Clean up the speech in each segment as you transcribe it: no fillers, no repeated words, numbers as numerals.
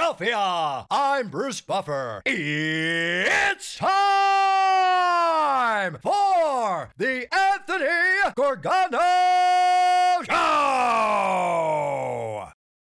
Philadelphia. I'm Bruce Buffer. It's time for the Anthony Gargano Show.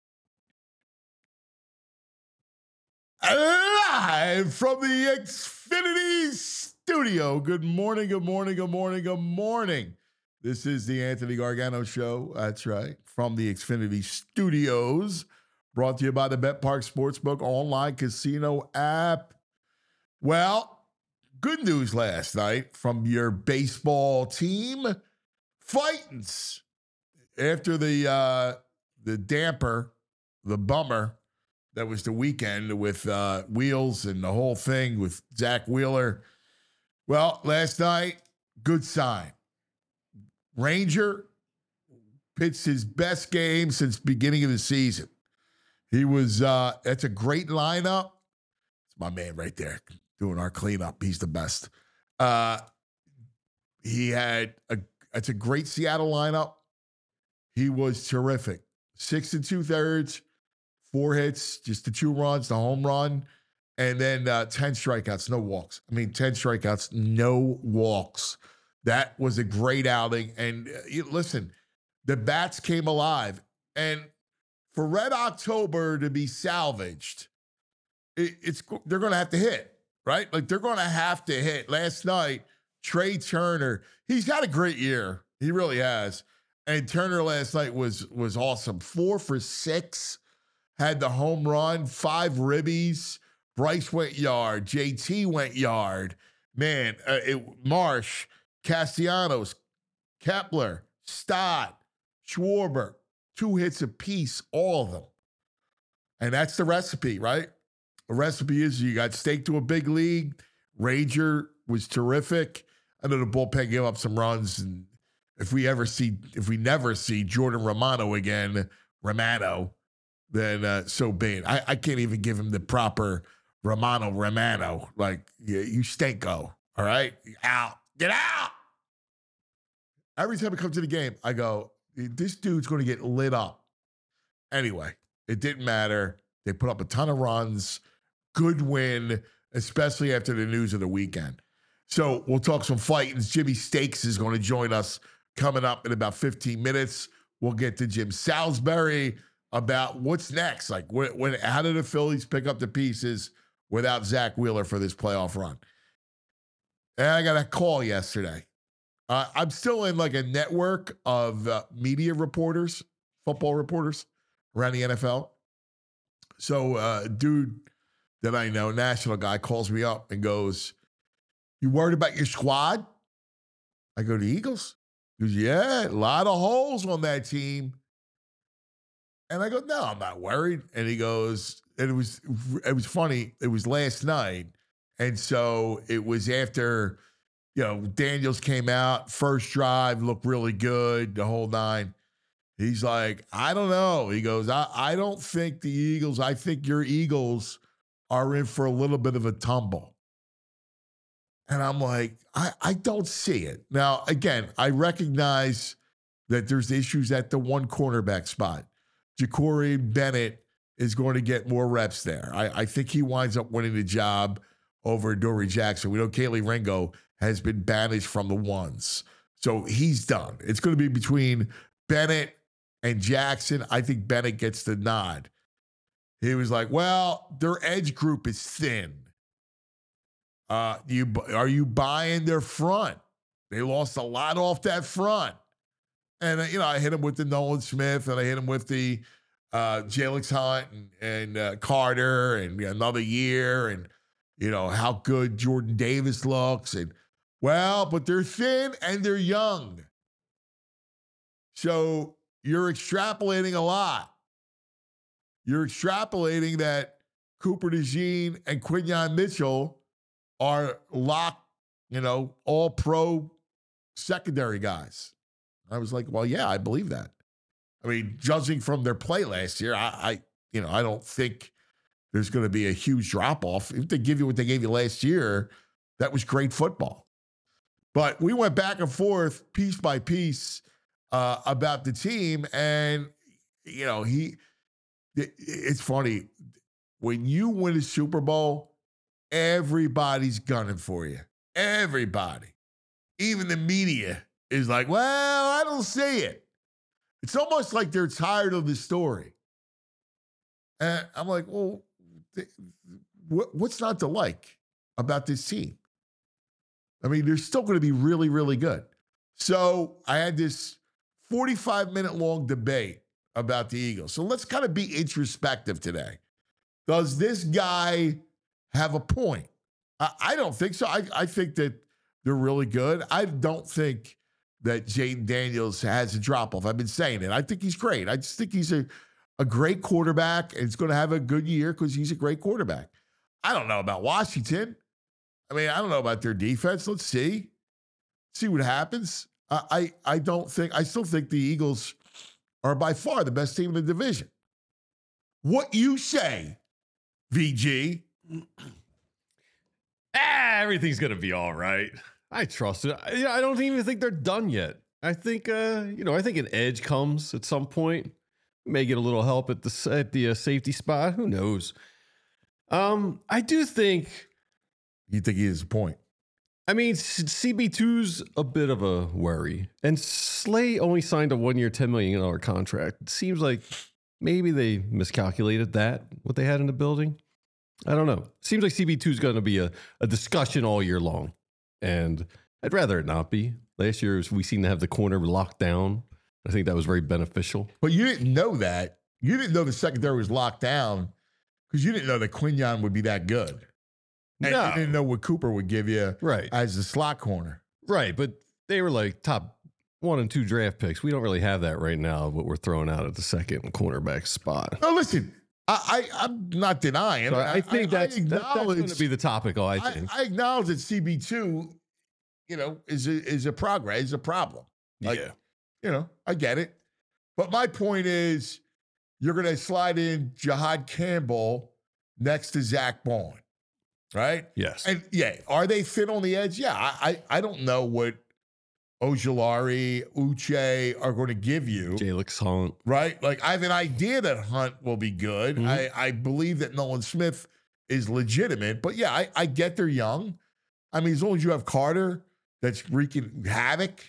Live from the Xfinity Studio. Good morning, good morning, good morning, good morning. This is the Anthony Gargano Show. That's right. From the Xfinity Studios. Brought to you by the BetPark Sportsbook online casino app. Well, good news last night from your baseball team. Fightins. After the damper, the bummer, that was the weekend with Wheels and the whole thing with Zach Wheeler. Well, last night, good sign. Ranger pitched his best game since beginning of the season. He was, that's a great lineup. It's my man right there doing our cleanup. He's the best. It's a great Seattle lineup. He was terrific. 6 2/3, 4 hits, just the 2 runs, the home run, and then 10 strikeouts, no walks. 10 strikeouts, no walks. That was a great outing. And listen, the bats came alive. And for Red October to be salvaged, they're going to have to hit, right? Like, they're going to have to hit. Last night, Trey Turner, he's had a great year. He really has. And Turner last night was awesome. 4 for 6, had the home run, 5 ribbies. Bryce went yard. JT went yard. Man, Marsh, Castellanos, Kepler, Stott, Schwarber, 2 hits apiece, all of them. And that's the recipe, right? The recipe is you got staked to a big league. Ranger was terrific. I know the bullpen gave up some runs, and if we never see Jordan Romano again, then so be it. I can't even give him the proper Romano. Like, you stinko, all right? Out. Get out. Every time I come to the game, I go, this dude's going to get lit up. Anyway, it didn't matter. They put up a ton of runs. Good win, especially after the news of the weekend. So we'll talk some fightings. Jimmy Stakes is going to join us coming up in about 15 minutes. We'll get to Jim Salisbury about what's next. Like, how did the Phillies pick up the pieces without Zach Wheeler for this playoff run? And I got a call yesterday. I'm still in like a network of media reporters, football reporters around the NFL. So a dude that I know, national guy, calls me up and goes, "You worried about your squad?" I go, "The Eagles?" He goes, "Yeah, a lot of holes on that team." And I go, "No, I'm not worried." And he goes, and it was funny. It was last night. And so it was after, Daniels came out, first drive, looked really good, the whole 9. He's like, "I don't know." He goes, I don't think the Eagles, I think your Eagles are in for a little bit of a tumble. And I'm like, I don't see it. Now, again, I recognize that there's issues at the one cornerback spot. Ja'Cory Bennett is going to get more reps there. I think he winds up winning the job over Dory Jackson. We know Kaylee Ringo has been banished from the ones. So he's done. It's going to be between Bennett and Jackson. I think Bennett gets the nod. He was like, well, their edge group is thin. Are you buying their front? They lost a lot off that front. And, I hit him with the Nolan Smith, and I hit him with the Jalix Hunt and Carter and another year, and, how good Jordan Davis looks. And, but they're thin and they're young. So you're extrapolating a lot. You're extrapolating that Cooper DeJean and Quinyon Mitchell are locked, all pro secondary guys. I was like, well, yeah, I believe that. Judging from their play last year, I don't think there's going to be a huge drop-off. If they give you what they gave you last year, that was great football. But we went back and forth, piece by piece, about the team. And, it's funny. when you win a Super Bowl, everybody's gunning for you. Everybody. Even the media is like, well, I don't see it. It's almost like they're tired of the story. And I'm like, well, what's not to like about this team? I mean, they're still going to be really, really good. So I had this 45-minute long debate about the Eagles. So let's kind of be introspective today. Does this guy have a point? I don't think so. I think that they're really good. I don't think that Jaden Daniels has a drop-off. I've been saying it. I think he's great. I just think he's a great quarterback, and he's going to have a good year because he's a great quarterback. I don't know about Washington. I mean, I don't know about their defense. Let's see what happens. I still think the Eagles are by far the best team in the division. What you say, VG? Everything's going to be all right. I trust it. I don't even think they're done yet. I think, I think an edge comes at some point. May get a little help at the safety spot. Who knows? I do think. You think he has a point? I mean, CB2's a bit of a worry. And Slay only signed a 1-year, $10 million contract. It seems like maybe they miscalculated what they had in the building. I don't know. Seems like CB2's going to be a discussion all year long. And I'd rather it not be. Last year, we seemed to have the corner locked down. I think that was very beneficial. But you didn't know that. You didn't know the secondary was locked down because you didn't know that Quinyon would be that good. And you didn't know what Cooper would give you as the slot corner. Right, but they were like top 1 and 2 draft picks. We don't really have that right now, what we're throwing out at the second cornerback spot. No, listen, I'm not denying. So I think that's going to be the topic, I think. I acknowledge that CB2, is a progress, is a problem. I get it. But my point is, you're going to slide in Jihad Campbell next to Zach Bond, right? Yes. And are they fit on the edge? Yeah, I don't know what Ojulari, Uche are going to give you. Jalix Hunt. Right? Like, I have an idea that Hunt will be good. Mm-hmm. I believe that Nolan Smith is legitimate. But yeah, I get they're young. I mean, as long as you have Carter that's wreaking havoc.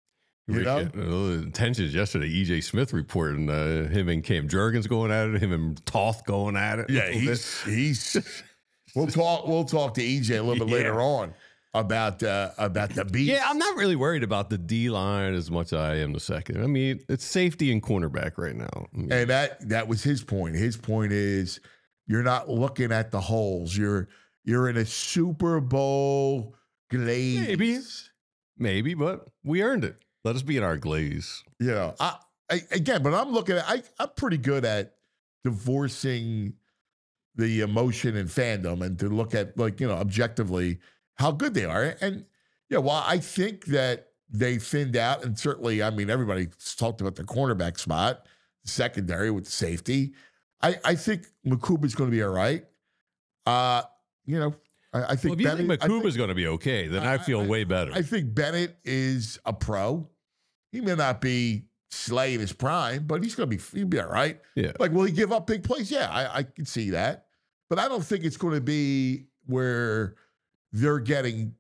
Tensions yesterday. EJ Smith reporting him and Cam Jurgens going at it, him and Toth going at it. Yeah, he's. We'll talk to EJ a little bit later on about the beat. Yeah, I'm not really worried about the D line as much as I am the second. I mean, it's safety and cornerback right now. And that was his point. His point is you're not looking at the holes. You're in a Super Bowl glaze. Maybe, but we earned it. Let us be in our glaze. But I'm looking at, I'm pretty good at divorcing the emotion and fandom and to look at, objectively how good they are. And while I think that they thinned out, and certainly, I mean, everybody's talked about the cornerback spot, secondary with the safety. I think Makuba's going to be all right. I think if you think Makuba's going to be okay, then I feel way better. I think Bennett is a pro. He may not be Slay in his prime, but he'll be all right. Yeah. Like, will he give up big plays? Yeah, I can see that. But I don't think it's going to be where they're getting,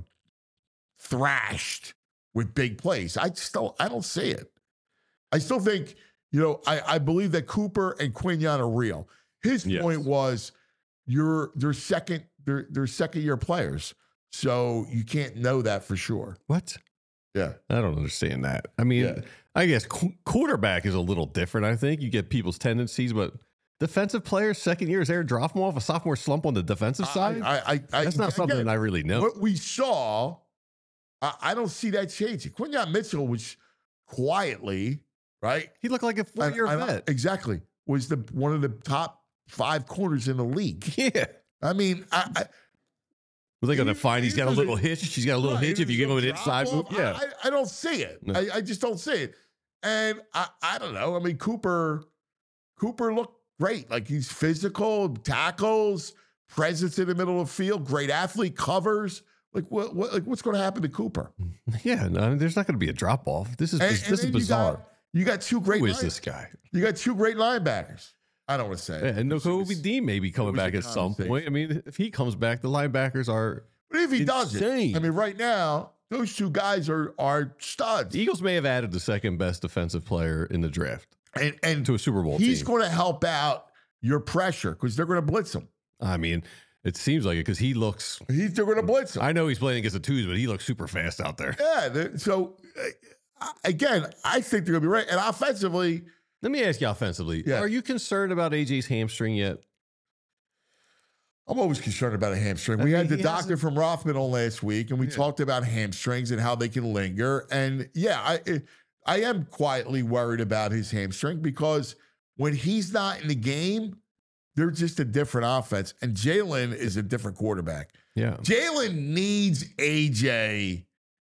thrashed with big plays. I don't see it. I still think, I believe that Cooper and Quinyon are real. His point was they're second year players. So you can't know that for sure. What? Yeah. I don't understand that. I mean, I guess quarterback is a little different, I think. You get people's tendencies, but defensive players, second year, is there a drop off, a sophomore slump on the defensive side? That's not something I really know. What we saw, I don't see that changing. Quinyon Mitchell was quietly, right? He looked like a 4-year vet. Exactly. Was one of the top 5 corners in the league. Yeah. I mean, Were they going to find he's got a little hitch? She's got a little hitch if you give him an inside move? Yeah. I don't see it. No. I just don't see it. And I don't know. I mean, Cooper looked great. Like, he's physical, tackles, presence in the middle of the field, great athlete, covers. Like, what's going to happen to Cooper? Yeah, no, there's not going to be a drop off. This is bizarre. You got 2 great. Who is this guy? You got 2 great linebackers. I don't want to say it. Yeah, and Nakobe Dean may be coming was a back at some conversation. point. I mean, if he comes back, the linebackers are But if he doesn't, insane. I mean, right now, those two guys are studs. The Eagles may have added the second best defensive player in the draft And to a Super Bowl he's team. going to help out your pressure because they're going to blitz him. I mean, it seems like it because he looks. They're going to blitz him. I know he's playing against the twos, but he looks super fast out there. Yeah. So, again, I think they're going to be right. And offensively, Let me ask you offensively. Yeah. Are you concerned about AJ's hamstring yet? I'm always concerned about a hamstring. We had the he doctor from Rothman on last week, and we talked about hamstrings and how they can linger. And yeah, I am quietly worried about his hamstring because when he's not in the game, they're just a different offense. And Jalen is a different quarterback. Yeah. Jalen needs AJ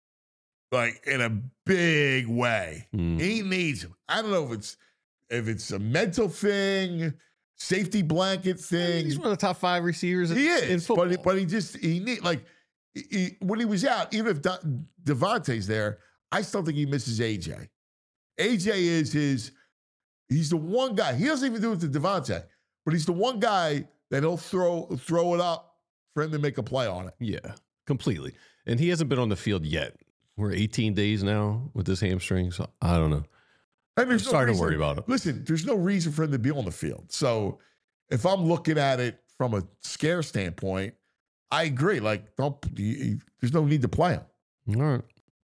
like in a big way. He needs him. I don't know if it's a mental thing, safety blanket thing. He's one of the top 5 receivers He in is, football. but he need like when he was out. Even if Devontae's there, I still think he misses AJ. AJ is he's the one guy. He doesn't even do it to Devontae, but he's the one guy that he'll throw it up for him to make a play on it. Yeah, completely. And he hasn't been on the field yet. We're 18 days now with this hamstring, so I don't know. And I'm starting to worry about it. Listen, there's no reason for him to be on the field. So if I'm looking at it from a scare standpoint, I agree. Like, there's no need to play him. All right.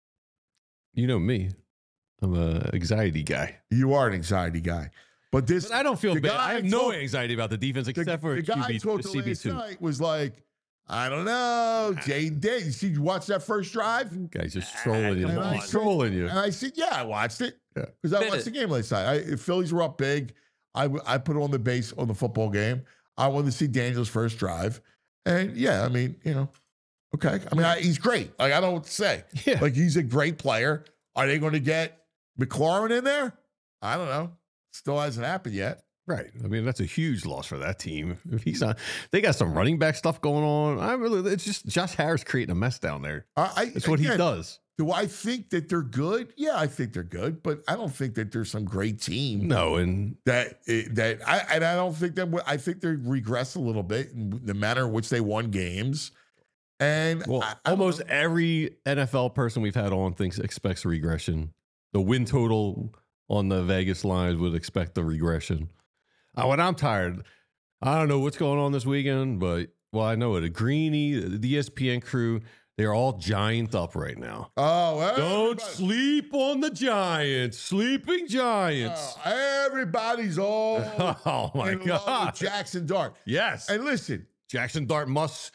You know me. I'm an anxiety guy. You are an anxiety guy. But But I don't feel the bad. guy I have no anxiety about the defense except for the guy I QB, talked to last CB2. night was like, I don't know, Jaden Daniels. Did you watch that first drive? Guy's just trolling you. And I He's said- trolling you. And I said, yeah, I watched it. Yeah. Because I watched the game last night. Phillies were up big. I put on the base on the football game. I wanted to see Daniels' first drive. And yeah, I mean, okay. I mean, he's great. Like, I don't know what to say. Yeah. Like, he's a great player. Are they going to get McLaurin in there? I don't know. Still hasn't happened yet. Right. I mean, that's a huge loss for that team. If he's not, they got some running back stuff going on. It's just Josh Harris creating a mess down there. That's what he does. Do I think that they're good? Yeah, I think they're good, but I don't think that there's some great team. No, and I don't think that. I think they regressed a little bit in the manner in which they won games. And almost every NFL person we've had on expects a regression. The win total on the Vegas lines would expect the regression. When I'm tired, I don't know what's going on this weekend, but I know it. Greeny, the ESPN crew, they're all giant up right now. Oh, don't sleep on the Giants, sleeping Giants. Everybody's all Oh my in love God, with Jackson Dart. Yes, And listen, Jackson Dart must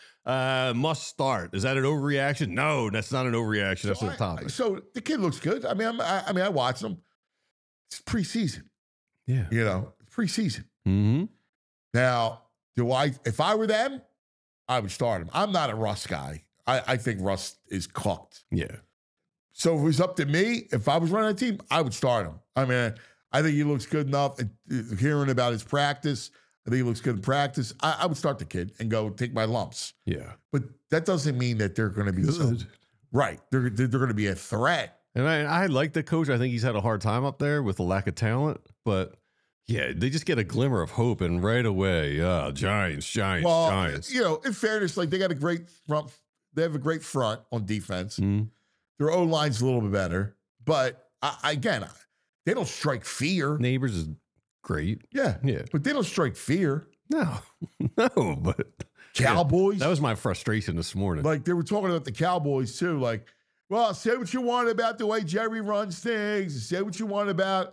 start. Is that an overreaction? No, that's not an overreaction. That's a topic. So the kid looks good. I mean, I watched him. It's preseason. Yeah. Preseason. Mm-hmm. Now, if I were them, I would start him. I'm not a Russ guy. I think Russ is cooked. Yeah. So if it was up to me, if I was running a team, I would start him. I mean, I think he looks good enough. Hearing about his practice, I think he looks good in practice. I would start the kid and go take my lumps. Yeah. But that doesn't mean that they're going to be Good. right. They're going to be a threat. And I like the coach. I think he's had a hard time up there with the lack of talent, but yeah, they just get a glimmer of hope, and right away, Giants. Well, in fairness, like they got a great front. They have a great front on defense. Mm. Their O line's a little bit better, but again, they don't strike fear. Neighbors is great. Yeah, but they don't strike fear. No, but Cowboys. That was my frustration this morning. Like they were talking about the Cowboys too. Like, well, say what you want about the way Jerry runs things. Say what you want about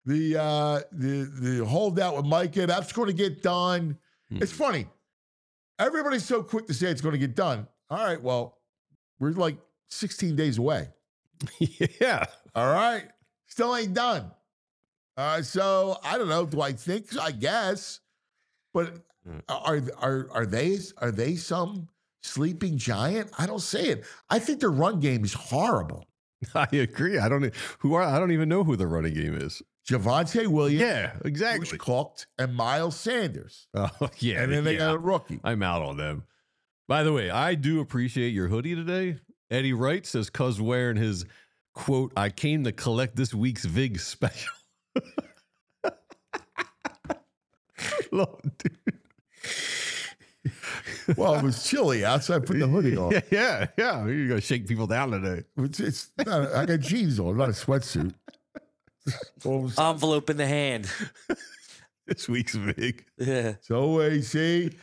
the holdout with Micah. That's going to get done. It's funny. Everybody's so quick to say it's going to get done. All right, well, we're like 16 days away. Yeah. All right. Still ain't done. So I don't know. Do I think so? I guess. But are they some sleeping giant? I don't see it. I think their run game is horrible. I agree. I don't even know who the running game is. Javonte Williams. Yeah, exactly. Bruce Cooked and Miles Sanders. Oh, yeah. And then they got a rookie. I'm out on them. By the way, I do appreciate your hoodie today. Eddie Wright says Cuz wearing his quote, "I came to collect this week's VIG special." Dude. Well, it was chilly outside. Put the hoodie on. Yeah. You're gonna shake people down today. It's not, I got jeans on, not a sweatsuit. Envelope in the hand. This week's big. Yeah. So OAC.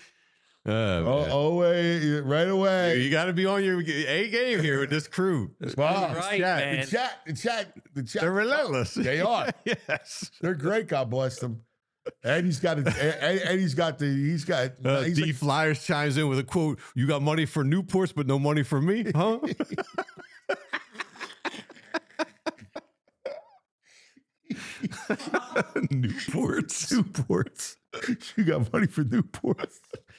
OA right away. You got to be on your A game here with this crew. Wow. Right, Chat. man. The chat. They're relentless. They are. Yes. They're great. God bless them. And he's got D Flyers chimes in with a quote: "You got money for Newports, but no money for me, huh?" Newports. You got money for Newports.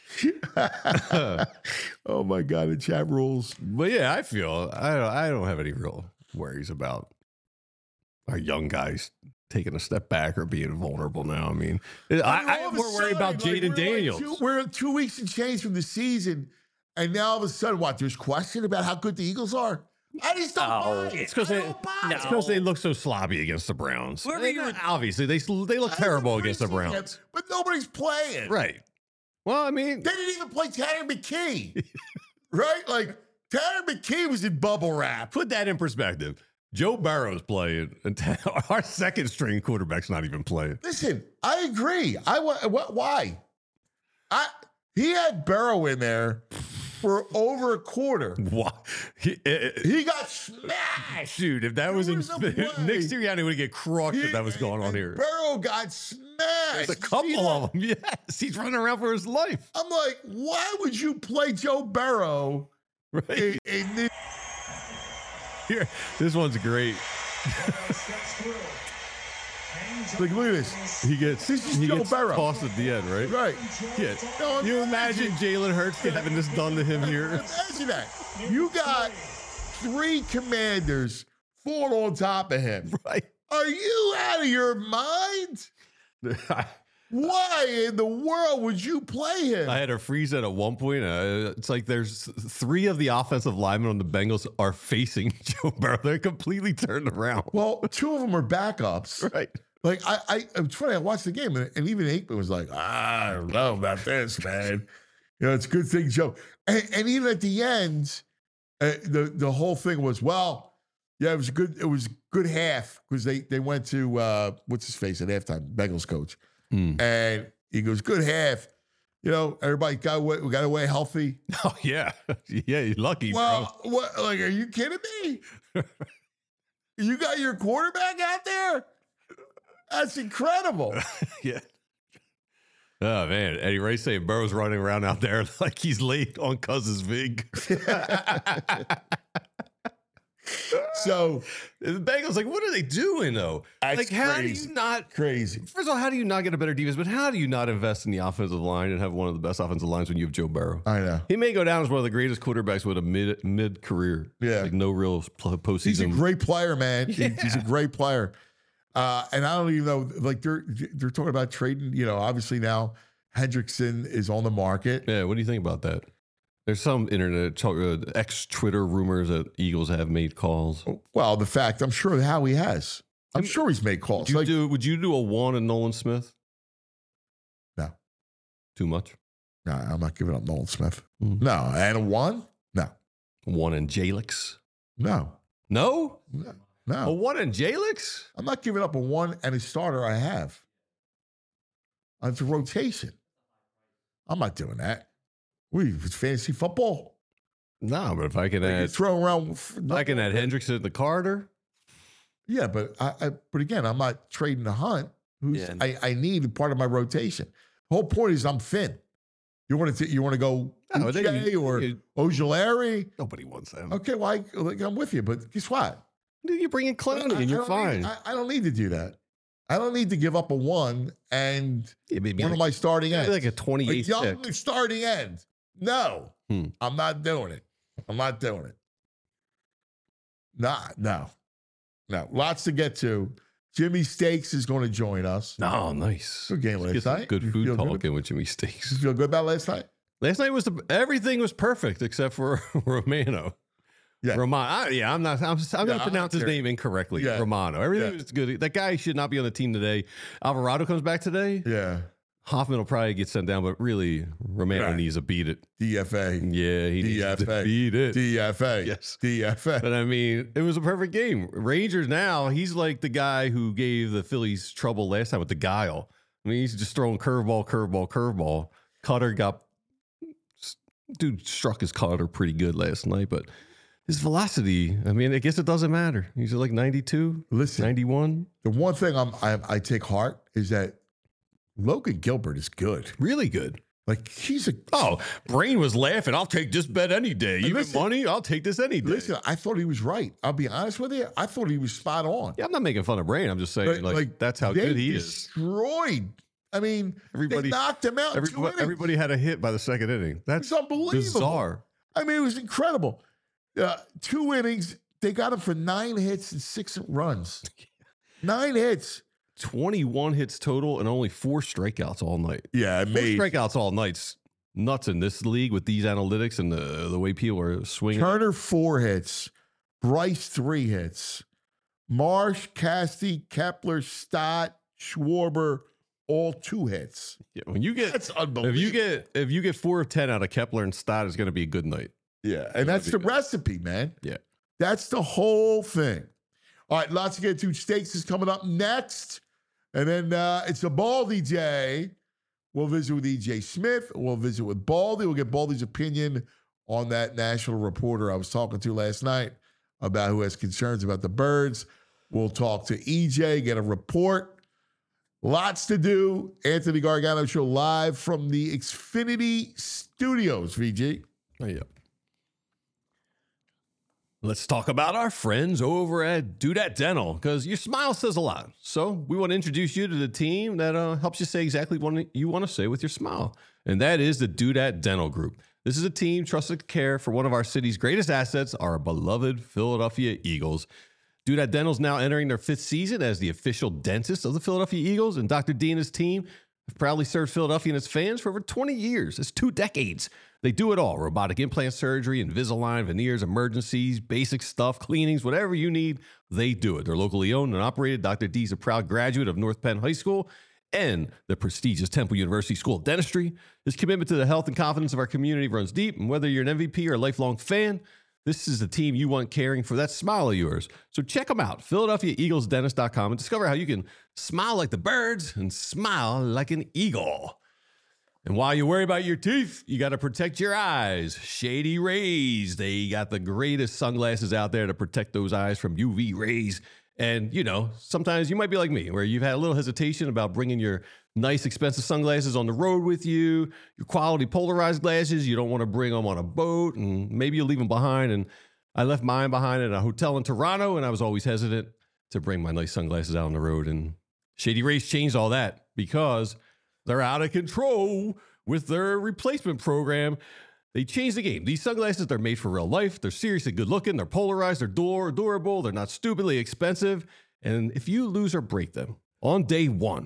Oh my God, the chat rules. But yeah, I feel I don't have any real worries about our young guys taking a step back or being vulnerable now. I mean, I'm more worried about Jaden Daniels. We're 2 weeks and change from the season, and now all of a sudden, what? There's question about how good the Eagles are. I just don't buy it. It's because they look so sloppy against the Browns. Obviously, they look terrible against the Browns. But nobody's playing. Right. Well, I mean, They didn't even play Tanner McKee. Right? Like, Tanner McKee was in bubble wrap. put that in perspective. Joe Burrow's playing, and our second string quarterback's not even playing. Listen, I agree. Why? He had Burrow in there for over a quarter. What? He got smashed. Dude, if that was in was no way. Nick Sirianni would get crushed if that was going on here. Burrow got smashed. There's a couple of them. Yes, he's running around for his life. I'm like, why would you play Joe Burrow? Right in this? here, this one's great. Like, look at this. He gets Joe Burrow. tossed at the end, right? Right. Yeah. No, You imagine Jalen Hurts having this done to him here? Imagine that. You got 3 commanders falling on top of him. Right. Are you out of your mind? Why in the world would you play him? I had a freeze at one point. It's like there's 3 of the offensive linemen on the Bengals are facing Joe Burrow. They're completely turned around. Well, 2 of them are backups. Right. Like, it's funny, I watched the game, and even Aikman was like, I don't know about this, man. You know, it's a good thing, Joe. And even at the end, the whole thing was, well, yeah, it was a good half, because they went to, what's his face at halftime, Bengals coach. And he goes, good half. You know, everybody got away healthy. Oh, yeah. Yeah, you're lucky, Well, what, like, are you kidding me? You got your quarterback out there? That's incredible. bro. Yeah. Oh, man. Eddie Ray saying Burrow's running around out there like he's late on Cousins Vig. So the Bengals, like, what are they doing, though? That's Like, how crazy. do you not... crazy. First of all, how do you not get a better defense? But how do you not invest in the offensive line and have one of the best offensive lines when you have Joe Burrow? I know. He may go down as one of the greatest quarterbacks with a mid career. Yeah. Like no real postseason. He's a great player, man. Yeah. He's a great player. And I don't even know, like, they're talking about trading, you know, obviously now Hendrickson is on the market. Yeah, what do you think about that? There's some internet, ex-Twitter rumors that Eagles have made calls. Well, the fact, I'm sure Howie has. I'm sure he's made calls. Would you do a 1 and Nolan Smith? No. Too much? No, I'm not giving up Nolan Smith. Mm. No. And a 1? No. 1 and Jalix? No. No? No. A No. 1 and Jalix? I'm not giving up a 1 and a starter I have. It's a rotation. I'm not doing that. It's fantasy football. No, but if I can Like, you're add, throwing around. I can add Hendrickson and the Carter. Yeah, but but again, I'm not trading the Hunt. Yeah. I need part of my rotation. The whole point is I'm thin. You want to go No, then Uche or Ojulari? Nobody wants that. Okay, well, I'm with you, but guess what? You bring in Clowney and you're fine. I don't need to do that. I don't need to give up a 1 and Yeah, maybe one of my starting ends. like a 28 young pick. starting end. No, I'm not doing it. I'm not doing it. No. Lots to get to. Jimmy Stakes is going to join us. Oh, nice. Good game Get last some night. good You food feel talking with Jimmy Steaks. You feel good about last night? Last night was everything was perfect except for Romano. Yeah. Romano. I'm going to pronounce his name incorrectly. Yeah. Romano. Everything Yeah. was good. That guy should not be on the team today. Alvarado comes back today. Yeah. Hoffman will probably get sent down, but really, Romano Right. needs to beat it. DFA. Yeah, he needs to DFA. beat it. DFA. Yes. DFA. But I mean, it was a perfect game. Rangers now, he's like the guy who gave the Phillies trouble last time with the guile. I mean, he's just throwing curveball. Cutter dude struck his cutter pretty good last night, but his velocity, I mean, I guess it doesn't matter. He's at like 92, Listen, 91. the one thing I take heart is that Logan Gilbert is good. Really good. Like he's a Brain was laughing. I'll take this bet any day. Even listen, money, I'll take this any day. listen. I thought he was right. I'll be honest with you. I thought he was spot on. Yeah, I'm not making fun of Brain. I'm just saying, like that's how they good he is. destroyed. I mean, they knocked him out. Everybody had a hit by the second inning. That's It's unbelievable. bizarre. I mean, it was incredible. 2 innings. They got him for 9 hits and 6 runs. 9 hits. 21 hits total and only 4 strikeouts all night. Yeah, 4 strikeouts all night's nuts in this league with these analytics and the way people are swinging. Turner 4 hits. Bryce 3 hits. Marsh, Casty, Kepler, Stott, Schwarber, all 2 hits. Yeah, when you get That's unbelievable. if you get 4 of 10 out of Kepler and Stott, it's going to be a good night. Yeah, and that's the recipe, man. Yeah. That's the whole thing. All right, lots to get to. Stakes is coming up next. And then it's a Baldy Day. We'll visit with EJ Smith. We'll visit with Baldy. We'll get Baldy's opinion on that national reporter I was talking to last night about who has concerns about the birds. We'll talk to EJ, get a report. Lots to do. Anthony Gargano Show live from the Xfinity Studios, VG. Oh, yeah. Let's talk about our friends over at Dudette Dental, because your smile says a lot. So we want to introduce you to the team that helps you say exactly what you want to say with your smile. And that is the Dudette Dental Group. This is a team trusted to care for one of our city's greatest assets, our beloved Philadelphia Eagles. Dudette Dental is now entering their 5th season as the official dentist of the Philadelphia Eagles, and Dr. D and his team have proudly served Philadelphia and its fans for over 20 years. It's 2 decades. They do it all: robotic implant surgery, Invisalign, veneers, emergencies, basic stuff, cleanings, whatever you need, they do it. They're locally owned and operated. Dr. D is a proud graduate of North Penn High School and the prestigious Temple University School of Dentistry. His commitment to the health and confidence of our community runs deep, and whether you're an MVP or a lifelong fan, this is the team you want caring for that smile of yours. So check them out, PhiladelphiaEaglesDentist.com, and discover how you can smile like the birds and smile like an eagle. And while you worry about your teeth, you got to protect your eyes. Shady Rays, they got the greatest sunglasses out there to protect those eyes from UV rays. And, you know, sometimes you might be like me, where you've had a little hesitation about bringing your nice, expensive sunglasses on the road with you, your quality polarized glasses. You don't want to bring them on a boat, and maybe you leave them behind. And I left mine behind at a hotel in Toronto, and I was always hesitant to bring my nice sunglasses out on the road. And Shady Rays changed all that because they're out of control with their replacement program. They changed the game. These sunglasses, they're made for real life. They're seriously good looking. They're polarized. They're durable. They're not stupidly expensive. And if you lose or break them on day one,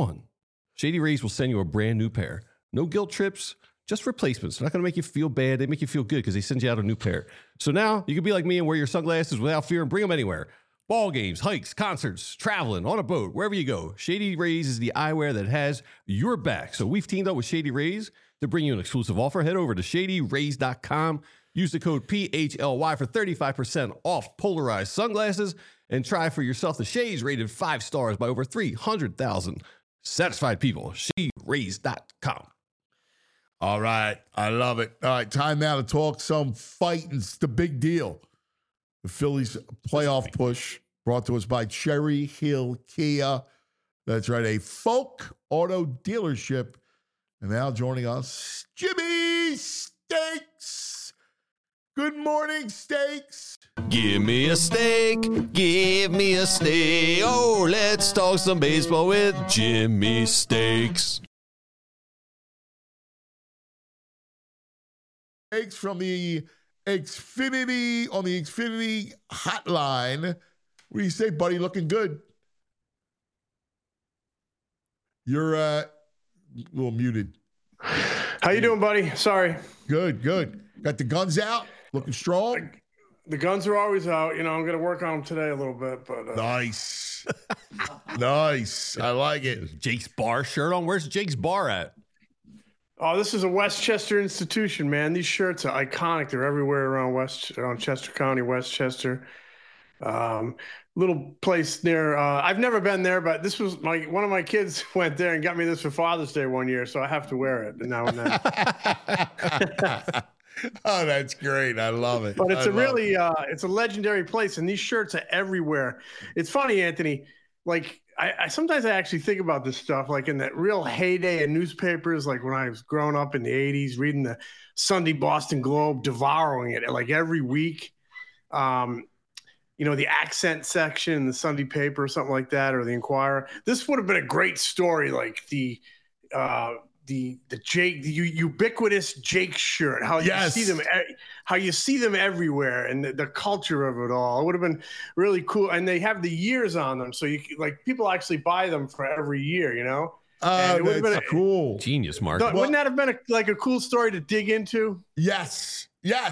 Shady Rays will send you a brand new pair. No guilt trips, just replacements. They're not going to make you feel bad. They make you feel good because they send you out a new pair. So now you can be like me and wear your sunglasses without fear and bring them anywhere. Ball games, hikes, concerts, traveling, on a boat, wherever you go. Shady Rays is the eyewear that has your back. So we've teamed up with Shady Rays to bring you an exclusive offer. Head over to ShadyRays.com. Use the code PHLY for 35% off polarized sunglasses and try for yourself the shades rated 5 stars by over 300,000 satisfied people. ShadyRays.com. All right. I love it. All right. Time now to talk some fight. It's the big deal. The Phillies playoff push brought to us by Cherry Hill Kia. That's right. A Folk Auto dealership. And now joining us, Jimmy Steaks. Good morning, Steaks. Give me a steak, give me a steak. Oh, let's talk some baseball with Jimmy Steaks. Steaks from the Xfinity, on the Xfinity hotline. What do you say, buddy? Looking good. You're a little muted. How you doing, buddy? Sorry. Good. Got the guns out, looking strong. The guns are always out. You know, I'm going to work on them today a little bit. But Nice. Nice. I like it. Jake's Bar shirt on. Where's Jake's Bar at? Oh, this is a Westchester institution, man. These shirts are iconic. They're everywhere around Chester County, Westchester. Little place near. I've never been there, but this was one of my kids went there and got me this for Father's Day one year, so I have to wear it now and then. Oh, that's great. I love it. But it's it's a legendary place, and these shirts are everywhere. It's funny, Anthony. Like I sometimes I actually think about this stuff, like in that real heyday of newspapers, like when I was growing up in the '80s, reading the Sunday Boston Globe, devouring it like every week. The accent section in the Sunday paper or something like that, or the Inquirer. This would have been a great story, like the ubiquitous Jake shirt. How you see them everywhere, and the culture of it all. It would have been really cool. And they have the years on them, so people actually buy them for every year. Oh, that's cool. Genius, Mark. Wouldn't that have been a cool story to dig into? Yes.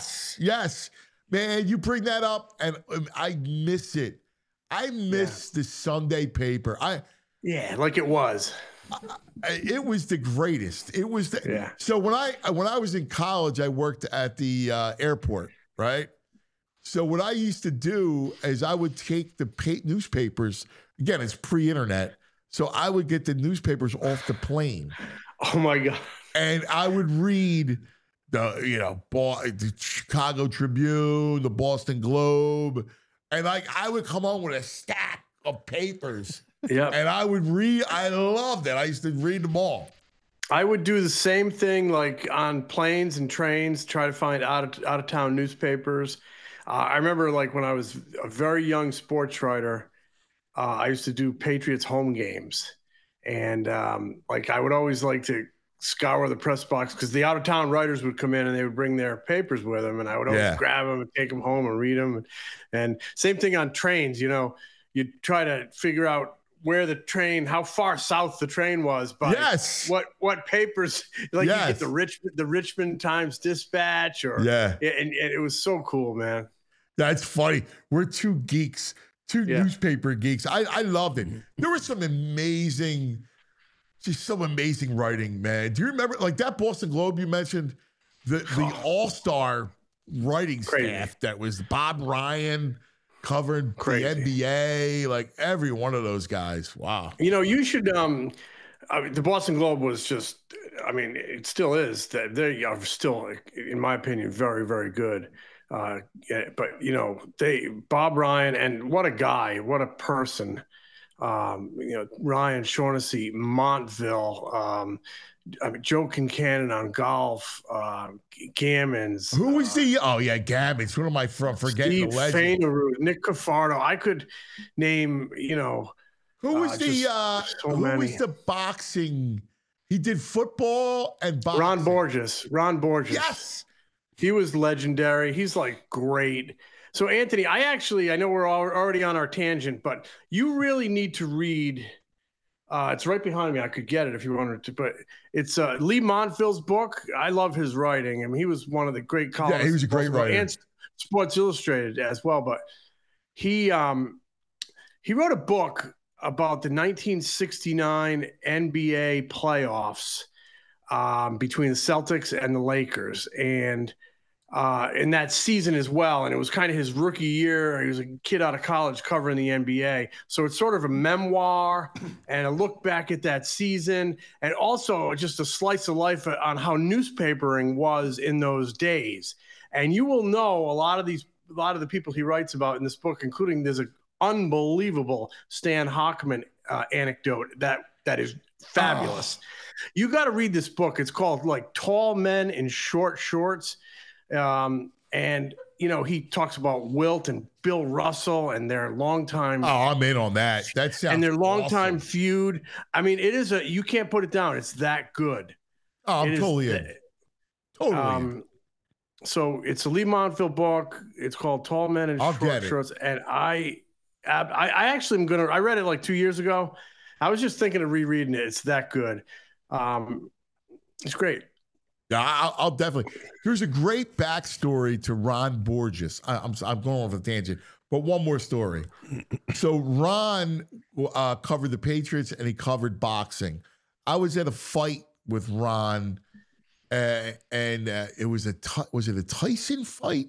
Man, you bring that up, and I miss it. I miss the Sunday paper. Like it was. It was the greatest. It was So when I was in college, I worked at the airport, right? So what I used to do is I would take the newspapers. Again, it's pre-internet, so I would get the newspapers off the plane. Oh my God! And I would read the Chicago Tribune, the Boston Globe, and I would come home with a stack of papers. Yeah, and I would read. I loved it. I used to read them all. I would do the same thing, like on planes and trains, try to find out of town newspapers. I remember, like when I was a very young sports writer, I used to do Patriots home games, and I would always like to scour the press box because the out of town writers would come in and they would bring their papers with them, and I would always grab them and take them home and read them. And same thing on trains. You try to figure out where the train, how far south the train was, by what papers, you get the Richmond Times Dispatch, and it was so cool, man. That's funny. We're two geeks, newspaper geeks. I loved it. There was some amazing writing, man. Do you remember like that Boston Globe you mentioned? The all-star writing staff that was Bob Ryan covering the NBA, like every one of those guys. Wow. You should the Boston Globe was just, it still is. That they are still, in my opinion, very, very good. But Bob Ryan, and what a guy, what a person. Ryan Shaughnessy, Montville, Joe Kincannon on golf, Gammons. Who was Gammons. Who am I from? Forgetting the legend. Fainaru, Nick Cafardo. I could name, who was the boxing? He did football and boxing. Ron Borges. Yes. He was legendary. He's great. So, Anthony, I know we're already on our tangent, but you really need to read. It's right behind me. I could get it if you wanted to, but it's Lee Montville's book. I love his writing. He was one of the great columnists. Yeah, he was a great writer. And Sports Illustrated as well. But he wrote a book about the 1969 NBA playoffs between the Celtics and the Lakers. And in that season as well. And it was kind of his rookie year. He was a kid out of college covering the NBA. So it's sort of a memoir and a look back at that season, and also just a slice of life on how newspapering was in those days. And you will know a lot of the people he writes about in this book, including there's an unbelievable Stan Hochman anecdote that is fabulous. You got to read this book. It's called Tall Men in Short Shorts. And he talks about Wilt and Bill Russell and their longtime. Oh, I'm in on that. That sounds and their longtime awesome. feud. It is you can't put it down. It's that good. Oh, I'm totally in. Totally in. So it's a Lee Montville book. It's called Tall Men in Short Shorts. And I actually am I read it 2 years ago. I was just thinking of rereading it. It's that good. It's great. Yeah, I'll definitely. There's a great backstory to Ron Borges. I'm going off a tangent, But one more story. So Ron covered the Patriots and he covered boxing. I was at a fight with Ron, and it was was it a Tyson fight?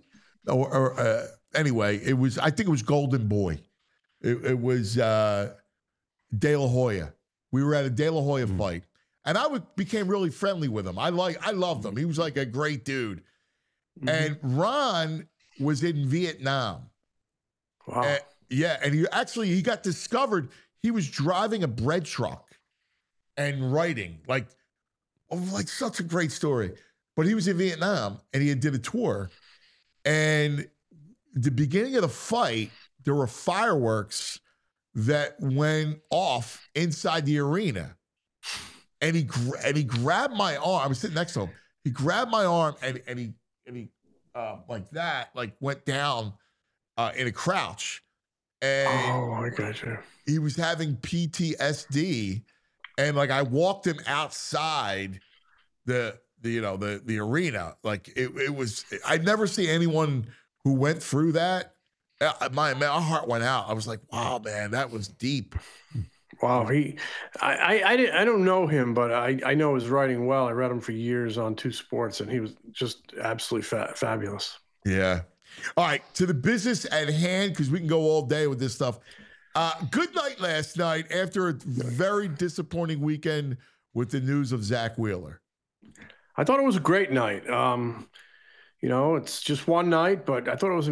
Anyway, it was. I think it was Golden Boy. It was De La Hoya. We were at a De La Hoya fight, and I became really friendly with him. I loved him. He was like a great dude. And Ron was in Vietnam. Wow. And he got discovered. He was driving a bread truck and writing like such a great story. But he was in Vietnam and he did a tour. And the beginning of the fight, there were fireworks that went off inside the arena. And he grabbed my arm. I was sitting next to him. He grabbed my arm and he like that, like went down in a crouch. And I gotcha. He was having PTSD. And like I walked him outside the arena. Like it was, I'd never see anyone who went through that. My heart went out. I was like, wow, man, that was deep. Wow. I don't know him, but I know his writing well. I read him for years on Two Sports, and he was just absolutely fabulous. Yeah. All right. To the business at hand, because we can go all day with this stuff. Good night last night after a very disappointing weekend with the news of Zach Wheeler. I thought it was a great night. It's just one night, but I thought it was,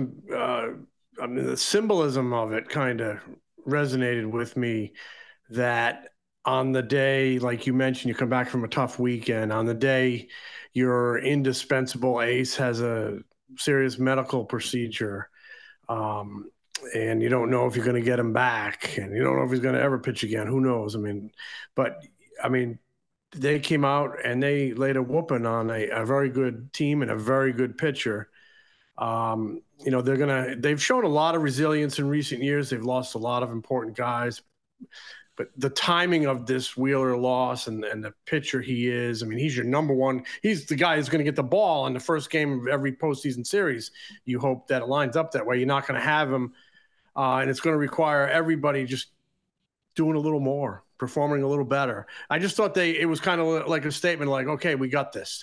the symbolism of it kind of resonated with me, that on the day, like you mentioned, you come back from a tough weekend. On the day your indispensable ace has a serious medical procedure, and you don't know if you're going to get him back, and you don't know if he's going to ever pitch again. Who knows? They came out and they laid a whooping on a very good team and a very good pitcher. They've shown a lot of resilience in recent years. They've lost a lot of important guys, but the timing of this Wheeler loss and the pitcher he is, he's your number one. He's the guy who's going to get the ball in the first game of every postseason series. You hope that it lines up that way. You're not going to have him, and it's going to require everybody just doing a little more, performing a little better. I just thought it was kind of like a statement, like, okay, we got this.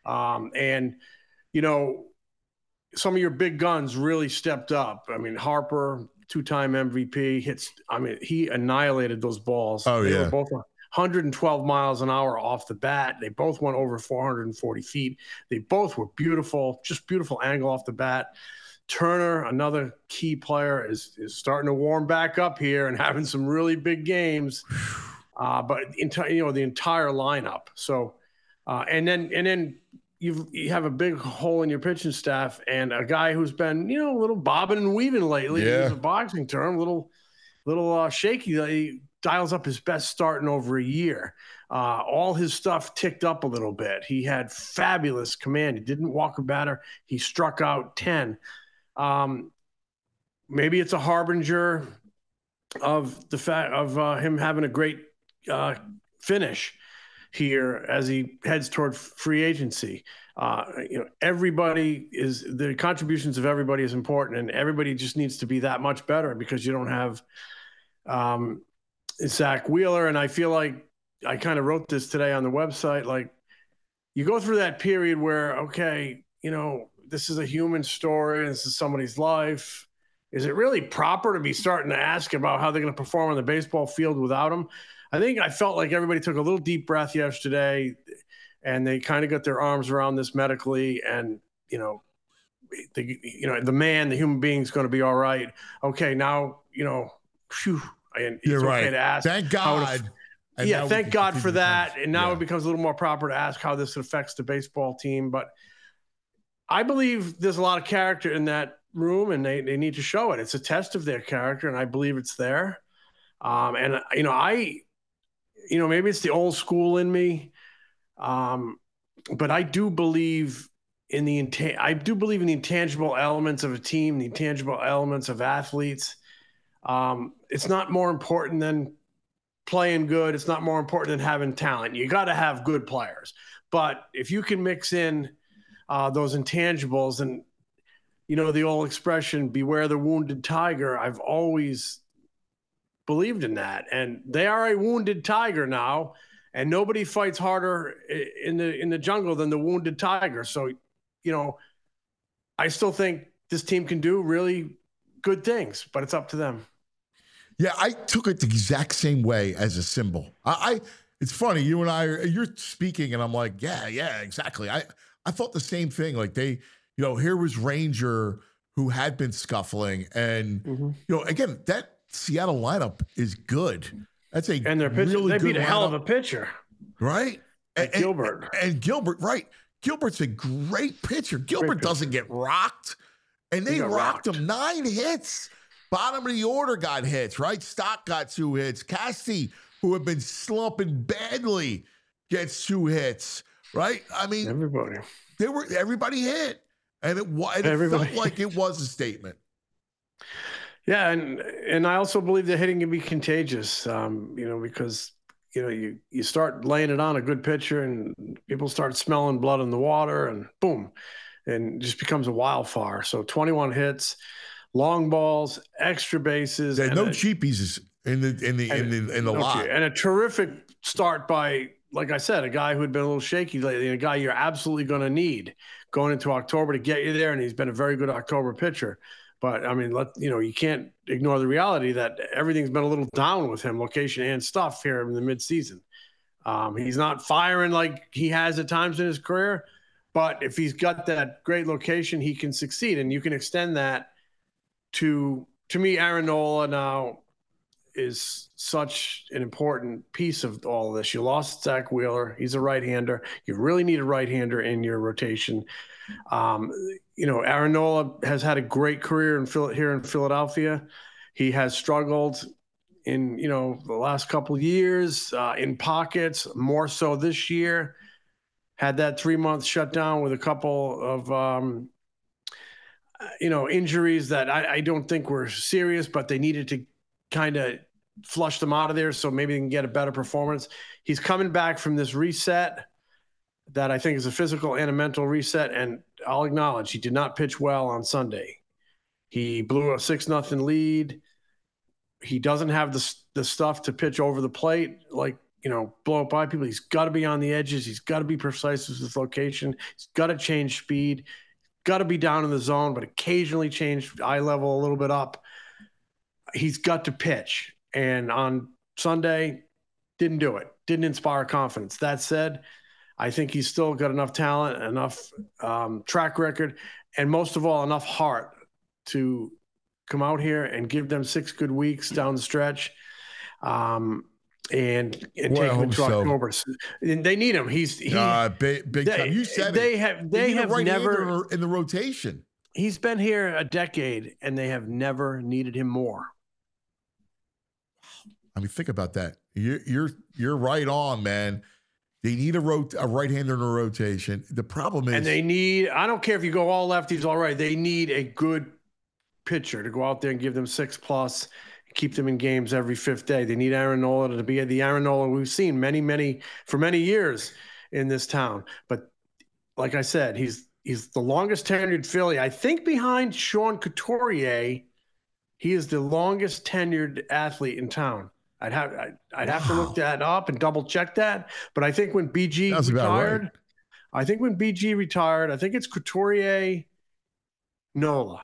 Some of your big guns really stepped up. Harper, two-time MVP, he annihilated those balls. They were both 112 miles an hour off the bat. They both went over 440 feet. They both were beautiful, just beautiful angle off the bat. Turner, another key player, is starting to warm back up here and having some really big games. But the entire lineup. So, and then you have a big hole in your pitching staff, and a guy who's been a little bobbing and weaving lately. Yeah. Use a boxing term, little shaky. He dials up his best start in over a year. All his stuff ticked up a little bit. He had fabulous command. He didn't walk a batter. He struck out 10. Maybe it's a harbinger of the fact of him having a great finish here as he heads toward free agency. The contributions of everybody is important, and everybody just needs to be that much better, because you don't have Zach Wheeler. And I feel like I kind of wrote this today on the website, like, you go through that period where, okay, this is a human story. This is somebody's life. Is it really proper to be starting to ask about how they're going to perform on the baseball field without him? I felt like everybody took a little deep breath yesterday, and they kind of got their arms around this medically, and, the human being is going to be all right. Okay. Now, phew, and it's okay to ask. Thank God. Thank God for that. And now it becomes a little more proper to ask how this affects the baseball team. But I believe there's a lot of character in that room, and they need to show it. It's a test of their character, and I believe it's there. Maybe it's the old school in me, but I do believe in the intangible elements of a team, the intangible elements of athletes. It's not more important than playing good. It's not more important than having talent. You got to have good players, but if you can mix in those intangibles, and the old expression, beware the wounded tiger. I've always believed in that. And they are a wounded tiger now, and nobody fights harder in the jungle than the wounded tiger. So, I still think this team can do really good things, but it's up to them. Yeah, I took it the exact same way as a symbol. It's funny, you and you're speaking, and I'm like, yeah, exactly. I thought the same thing. Like here was Ranger, who had been scuffling, and again, that Seattle lineup is good. That's and their pitcher, really they beat good a hell lineup. of a pitcher, right? And Gilbert. And Gilbert, right? Gilbert's a great pitcher. Gilbert doesn't get rocked, and they rocked him 9 hits. Bottom of the order got hits, right? Stock got 2 hits. Cassie, who had been slumping badly, gets 2 hits, right? I mean, everybody hit, and it felt like it was a statement. Yeah, and I also believe that hitting can be contagious, because you start laying it on a good pitcher, and people start smelling blood in the water, and boom, and it just becomes a wildfire. So 21 hits, long balls, extra bases, and no cheapies in the lot, and a terrific start by, like I said, a guy who had been a little shaky lately, and a guy you're absolutely going to need going into October to get you there, and he's been a very good October pitcher. But I mean, you can't ignore the reality that everything's been a little down with him, location and stuff here in the midseason. He's not firing like he has at times in his career, but if he's got that great location, he can succeed, and you can extend that to me. Aaron Nola now is such an important piece of all of this. You lost Zach Wheeler; he's a right-hander. You really need a right-hander in your rotation. Aaron Nola has had a great career here in Philadelphia. He has struggled in, the last couple of years in pockets, more so this year. Had that 3-month shutdown with a couple of, injuries that I don't think were serious, but they needed to kind of flush them out of there so maybe they can get a better performance. He's coming back from this reset that I think is a physical and a mental reset, and I'll acknowledge he did not pitch well on Sunday. He blew a 6-0 lead. He doesn't have the stuff to pitch over the plate, like, blow up by people. He's got to be on the edges. He's got to be precise with his location. He's got to change speed. Got to be down in the zone, but occasionally change eye level a little bit up. He's got to pitch. And on Sunday, didn't do it. Didn't inspire confidence. That said, I think he's still got enough talent, enough track record, and most of all, enough heart to come out here and give them 6 good weeks down the stretch, and take him to October. And they need him. He's big time. You said they have never in the rotation. He's been here a decade, and they have never needed him more. I mean, think about that. You're right on, man. They need a right-hander in a rotation. The problem is... And they need... I don't care if you go all lefties, all right. They need a good pitcher to go out there and give them 6+, keep them in games every 5th day. They need Aaron Nola to be the Aaron Nola we've seen for many years in this town. But like I said, he's the longest tenured Philly. I think behind Sean Couturier, he is the longest tenured athlete in town. I'd have to look that up and double check that. But I think when BG retired, right. I think it's Couturier, Nola.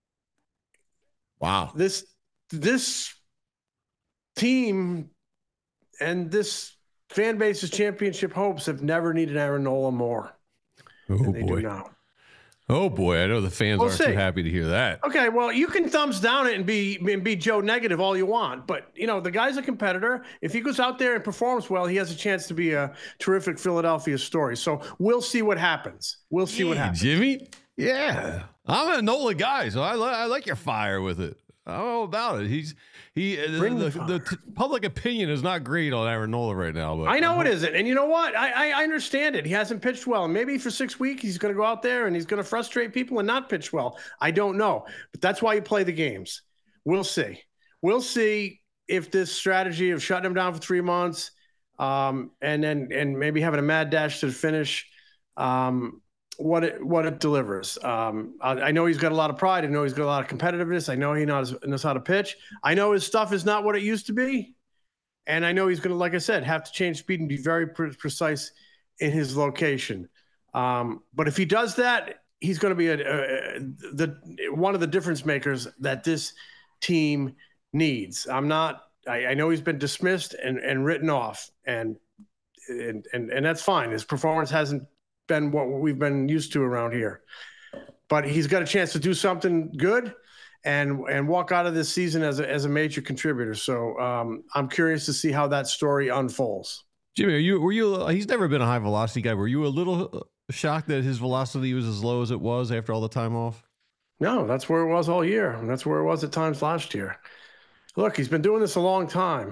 Wow. This team and this fan base's championship hopes have never needed Aaron Nola more. Oh, they boy. do now. Oh boy, I know the fans aren't too happy to hear that. Okay, well, you can thumbs down it and be Joe negative all you want, but the guy's a competitor. If he goes out there and performs well, he has a chance to be a terrific Philadelphia story. So we'll see what happens. What happens. Jimmy? Yeah, I'm a Nola guy, so I like your fire with it. I don't know about it. The public opinion is not great on Aaron Nola right now. But I know it isn't. And you know what? I understand it. He hasn't pitched well. And maybe for 6 weeks, he's going to go out there and he's going to frustrate people and not pitch well. I don't know. But that's why you play the games. We'll see. We'll see if this strategy of shutting him down for 3 months and maybe having a mad dash to the finish what it delivers. I know he's got a lot of pride. I know he's got a lot of competitiveness. I know he knows how to pitch. I know his stuff is not what it used to be. And I know he's going to, like I said, have to change speed and be very precise in his location. But if he does that, he's going to be one of the difference makers that this team needs. I know he's been dismissed and written off, and that's fine. His performance hasn't been what we've been used to around here, but he's got a chance to do something good and walk out of this season as a major contributor. So I'm curious to see how that story unfolds. Jimmy, he's never been a high velocity guy. Were you a little shocked that his velocity was as low as it was after all the time off? No, that's where it was all year. And that's where it was at times last year. Look, he's been doing this a long time.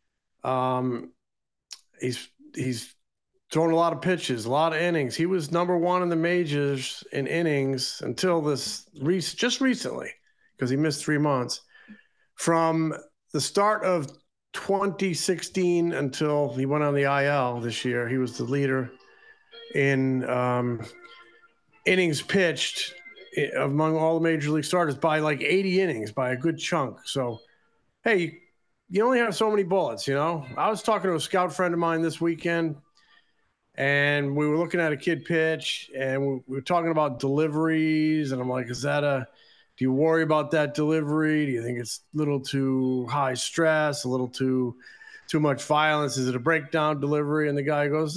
He's thrown a lot of pitches, a lot of innings. He was number one in the majors in innings until just recently, because he missed 3 months. From the start of 2016 until he went on the IL this year, he was the leader in innings pitched among all the major league starters by like 80 innings, by a good chunk. So, hey, you only have so many bullets, you know? I was talking to a scout friend of mine this weekend, and we were looking at a kid pitch, and we were talking about deliveries, and I'm like, do you worry about that delivery? Do you think it's a little too high stress, a little too much violence? Is it a breakdown delivery? And the guy goes,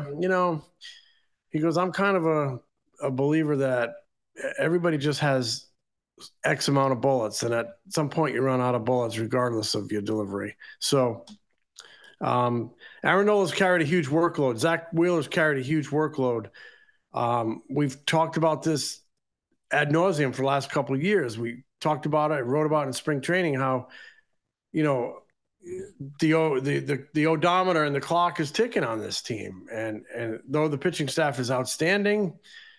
he goes, I'm kind of a believer that everybody just has X amount of bullets, and at some point you run out of bullets regardless of your delivery. So Aaron Nola's carried a huge workload. Zach Wheeler's carried a huge workload. We've talked about this ad nauseum for the last couple of years. We talked about it, wrote about it in spring training, how, the odometer and the clock is ticking on this team. And though the pitching staff is outstanding,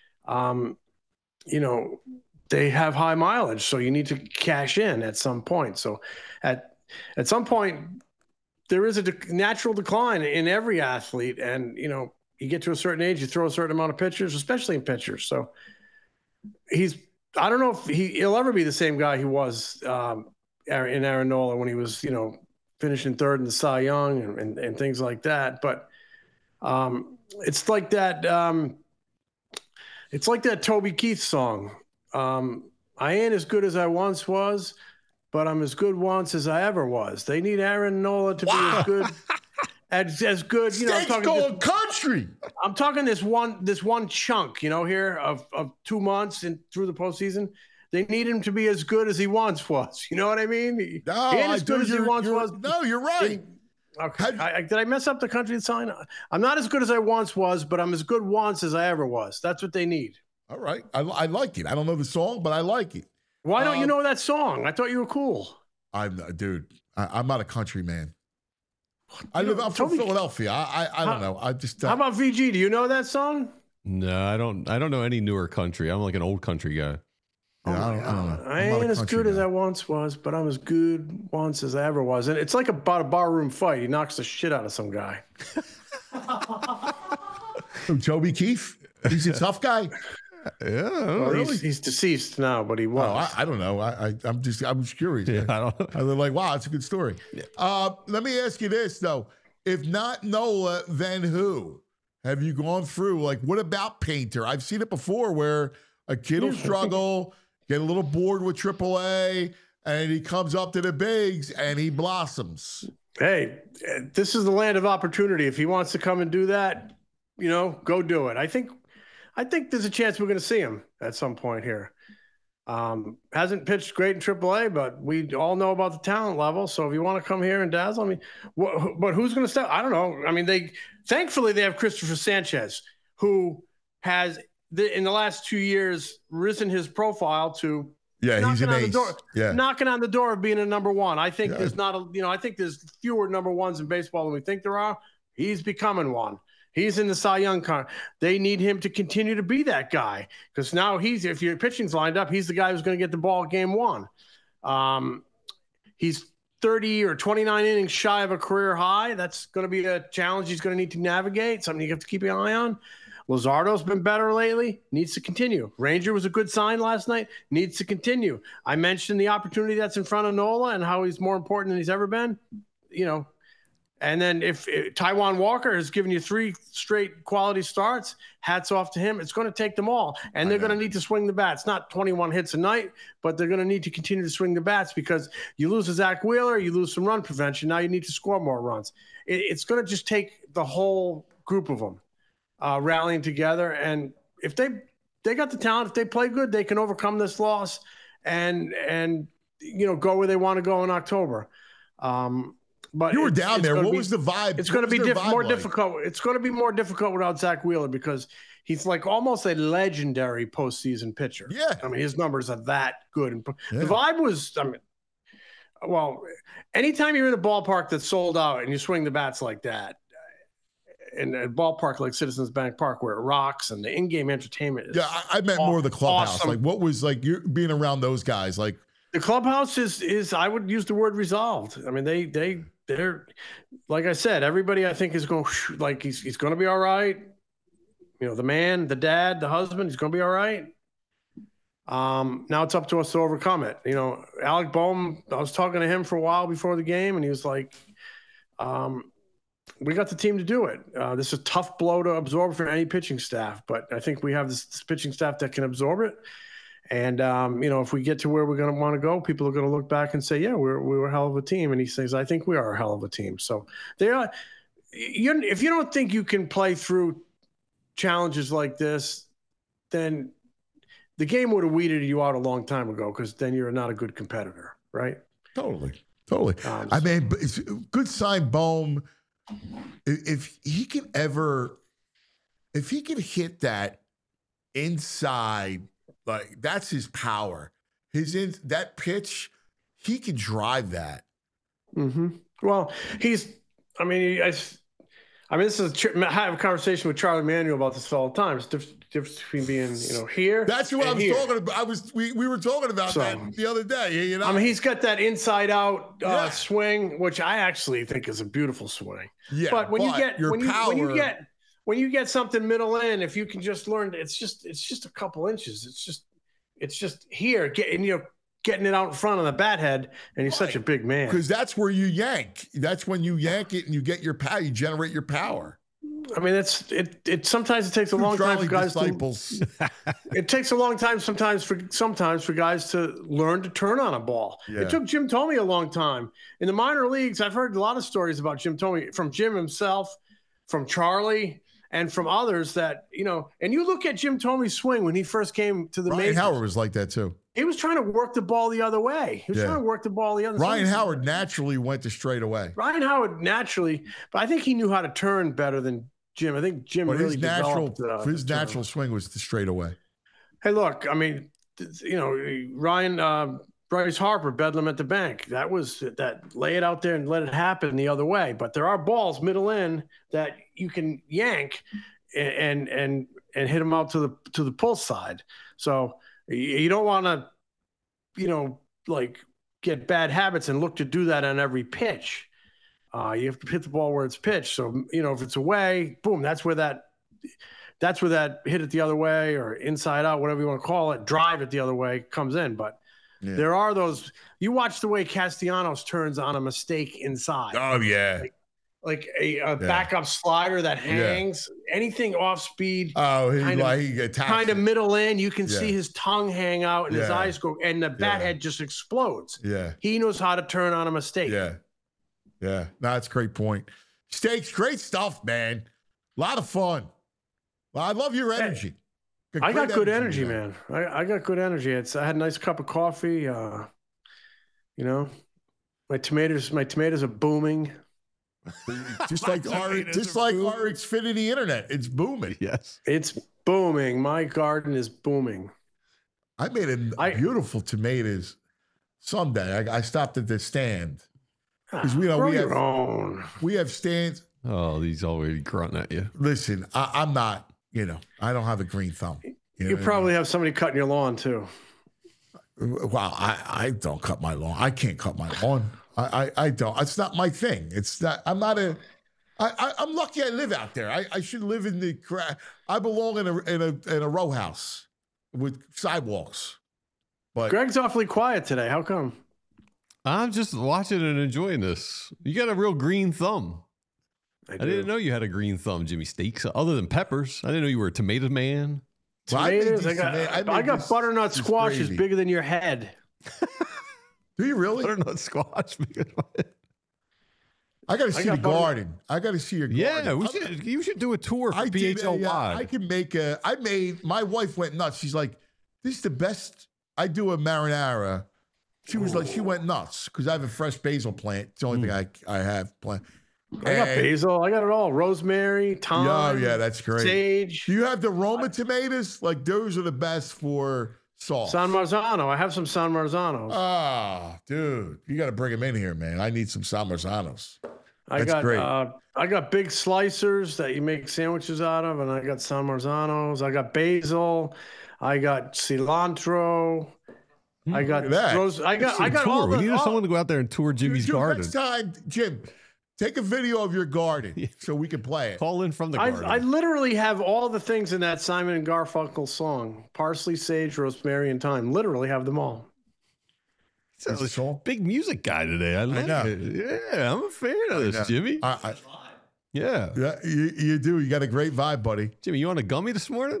they have high mileage, so you need to cash in at some point. So at some point, there is a natural decline in every athlete. And, you get to a certain age, you throw a certain amount of pitchers, especially in pitchers. So I don't know if he'll ever be the same guy he was in Aaron Nola when he was, finishing third in the Cy Young and things like that. But it's like that. It's like that Toby Keith song. I ain't as good as I once was, but I'm as good once as I ever was. They need Aaron Nola to be as good. As good, I'm talking country. I'm talking this one chunk, here of 2 months and through the postseason. They need him to be as good as he once was. You know what I mean? He ain't as good as he once was. No, you're right. Okay. Did I mess up the country sign? I'm not as good as I once was, but I'm as good once as I ever was. That's what they need. All right. I like it. I don't know the song, but I like it. Why don't you know that song? I thought you were cool. I'm not a country man. I'm from Philadelphia. I don't know. I just. How about VG? Do you know that song? No, I don't know any newer country. I'm like an old country guy. Yeah, I don't know. I ain't as good as I once was, but I'm as good once as I ever was. And it's like about a barroom fight. He knocks the shit out of some guy. Toby Keith? He's a tough guy. Yeah, really? He's deceased now, but he was. I don't know. I'm just curious. Yeah, I don't. I'm like, wow, it's a good story. Yeah. Let me ask you this though: if not Nola, then who? Have you gone through? Like, what about Painter? I've seen it before where a kid will struggle, get a little bored with AAA, and he comes up to the bigs and he blossoms. Hey, this is the land of opportunity. If he wants to come and do that, go do it. I think there's a chance we're going to see him at some point here. Hasn't pitched great in AAA, but we all know about the talent level. So if you want to come here and dazzle, but who's going to step? I don't know. I mean, thankfully they have Christopher Sanchez, who has in the last 2 years risen his profile to he's an ace. Knocking on the door of being a number one. I think there's I think there's fewer number ones in baseball than we think there are. He's becoming one. He's in the Cy Young con. They need him to continue to be that guy because now if your pitching's lined up, he's the guy who's going to get the ball game one. He's 30 or 29 innings shy of a career high. That's going to be a challenge he's going to need to navigate, something you have to keep an eye on. Luzardo's been better lately, needs to continue. Ranger was a good sign last night, needs to continue. I mentioned the opportunity that's in front of Nola and how he's more important than he's ever been. And then if Taijuan Walker has given you 3 straight quality starts, hats off to him. It's going to take them all. And they're going to need to swing the bats. Not 21 hits a night, but they're going to need to continue to swing the bats because you lose a Zach Wheeler, you lose some run prevention. Now you need to score more runs. It's going to just take the whole group of them rallying together. And if they got the talent, if they play good, they can overcome this loss and go where they want to go in October. But you were down there. What was the vibe? It's going to be more difficult. It's going to be more difficult without Zach Wheeler because he's like almost a legendary postseason pitcher. Yeah. I mean, his numbers are that good. And the vibe was, anytime you're in a ballpark that's sold out and you swing the bats like that, in a ballpark like Citizens Bank Park where it rocks and the in-game entertainment is I meant more of the clubhouse. Awesome. Like, what was like you being around those guys? Like, the clubhouse is I would use the word resolved. I mean, they're like I said, everybody I think is going like he's going to be all right. The man, the dad, the husband, he's going to be all right. Now it's up to us to overcome it. Alec Bohm, I was talking to him for a while before the game, and he was like, we got the team to do it. This is a tough blow to absorb for any pitching staff, but I think we have this pitching staff that can absorb it. And, if we get to where we're going to want to go, people are going to look back and say, yeah, we were a hell of a team. And he says, I think we are a hell of a team. So they are. If you don't think you can play through challenges like this, then the game would have weeded you out a long time ago because then you're not a good competitor, right? Totally. I mean, but it's a good sign, Bohm. If he can hit that inside, like that's his power. That pitch, he can drive that. Mm-hmm. Well, this is I have a conversation with Charlie Manuel about this all the time. It's the difference between being, here. That's what I was talking about. We were talking about that the other day. He's got that inside out swing, which I actually think is a beautiful swing. Yeah, but when you get something middle in, if you can just learn, it's just a couple inches. It's just here getting it out in front of the bat head, and he's such a big man. Because that's where you yank. That's when you yank it and you get your power. You generate your power. I mean, sometimes it takes a long time for guys it takes a long time sometimes for guys to learn to turn on a ball. Yeah. It took Jim Thome a long time. In the minor leagues, I've heard a lot of stories about Jim Thome from Jim himself, from Charlie, and from others that, and you look at Jim Thome's swing when he first came to the majors. Ryan Howard was like that too. He was trying to work the ball the other way. Ryan Howard naturally went to straight away. Ryan Howard naturally, but I think he knew how to turn better than Jim. I think Jim really developed his natural swing was the straight away. Hey, look, I mean, Ryan, Bryce Harper, Bedlam at the bank. That was that. Lay it out there and let it happen the other way. But there are balls middle in that you can yank and hit them out to the pull side. So you don't want to, get bad habits and look to do that on every pitch. You have to hit the ball where it's pitched. So, if it's away, boom, that's where that hit it the other way or inside out, whatever you want to call it, drive it the other way comes in. But there are those, you watch the way Castellanos turns on a mistake inside. Oh, yeah. Like a backup slider that hangs, anything off speed. Oh, kind of middle in. You can see his tongue hang out and his eyes go, and the bat head just explodes. Yeah. He knows how to turn on a mistake. Yeah. Yeah. No, that's a great point. Steaks, great stuff, man. A lot of fun. Well, I love your energy. I got good energy, man. I got good energy. I had a nice cup of coffee. My tomatoes are booming. just like our Xfinity internet, it's booming. Yes, it's booming. My garden is booming. I made beautiful tomatoes someday. I stopped at the stand because we have stands. Oh, he's already grunting at you. Listen, I'm not. I don't have a green thumb. You probably have somebody cutting your lawn too. Well, I don't cut my lawn. I can't cut my lawn. I don't. It's not my thing. It's not. I'm not a. I'm lucky I live out there. I should live in the. I belong in a row house with sidewalks. But Greg's awfully quiet today. How come? I'm just watching and enjoying this. You got a real green thumb. I didn't know you had a green thumb, Jimmy Steaks. Other than peppers, I didn't know you were a tomato man. Tomatoes. I got butternut squash is bigger than your head. Do you really? Butternut squash. I got to see the garden. I got to see your garden. Yeah, you should do a tour for PHLY. I can make my wife went nuts. She's like, this is the best. I do a marinara. She was like, she went nuts because I have a fresh basil plant. It's the only thing I have plant. I got basil. I got it all. Rosemary, thyme. Oh, yeah, that's great. Sage. Do you have the Roma tomatoes? Like, those are the best for sauce. San Marzano. I have some San Marzanos. Ah, dude. You got to bring them in here, man. I need some San Marzanos. That's great. I got big slicers that you make sandwiches out of, and I got San Marzanos. I got basil. I got cilantro. I got rose. I got all the. We need someone to go out there and tour Jimmy's garden. Next time, Jim, take a video of your garden so we can play it. Call in from the garden. I literally have all the things in that Simon and Garfunkel song: parsley, sage, rosemary, and thyme. Literally have them all. So big music guy today. I know. It. Yeah, I'm a fan of this, Jimmy. Yeah, you do. You got a great vibe, buddy. Jimmy, you on a gummy this morning?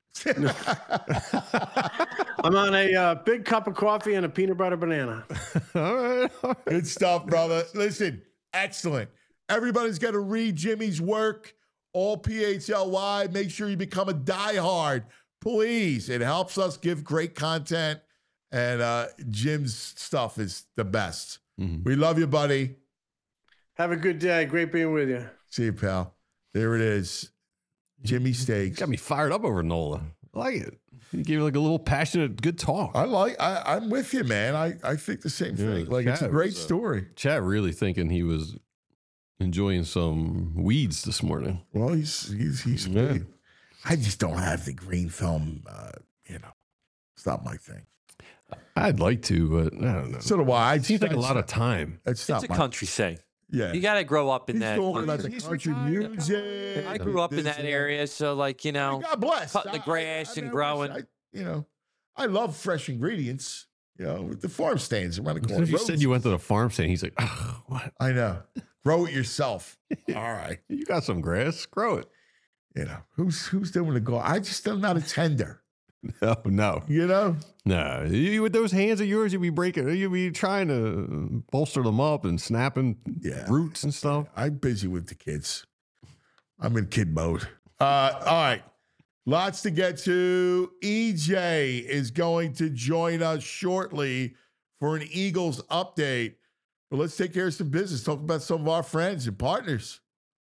I'm on a big cup of coffee and a peanut butter banana. All right. Good stuff, brother. Listen, excellent. Everybody's got to read Jimmy's work, all PHLY. Make sure you become a diehard. Please. It helps us give great content. And Jim's stuff is the best. Mm-hmm. We love you, buddy. Have a good day. Great being with you. See you, pal. There it is. Jimmy Steaks. Got me fired up over Nola. I like it. You gave like a little passionate, good talk. I'm with you, man. I think the same thing. Like, it's a great story. Chad really thinking he was enjoying some weeds this morning. Well, he's I just don't have the green film. It's not my thing. I'd like to, but I don't know. So do I. It seems like a lot of time. It's a country thing. Yeah. You got to grow up in that. Talking about the country music. I grew up in that area, so God bless. Cutting the grass and growing. I love fresh ingredients. The farm stands around the corner. You said you went to the farm stand. He's like, oh, what? I know. Grow it yourself. All right. You got some grass. Grow it. Who's doing the garden? I'm not a tender. No. No, you with those hands of yours, you'd be trying to bolster them up and snapping roots and stuff. I'm busy with the kids. I'm in kid mode. All right. Lots to get to. EJ is going to join us shortly for an Eagles update. But let's take care of some business. Talk about some of our friends and partners.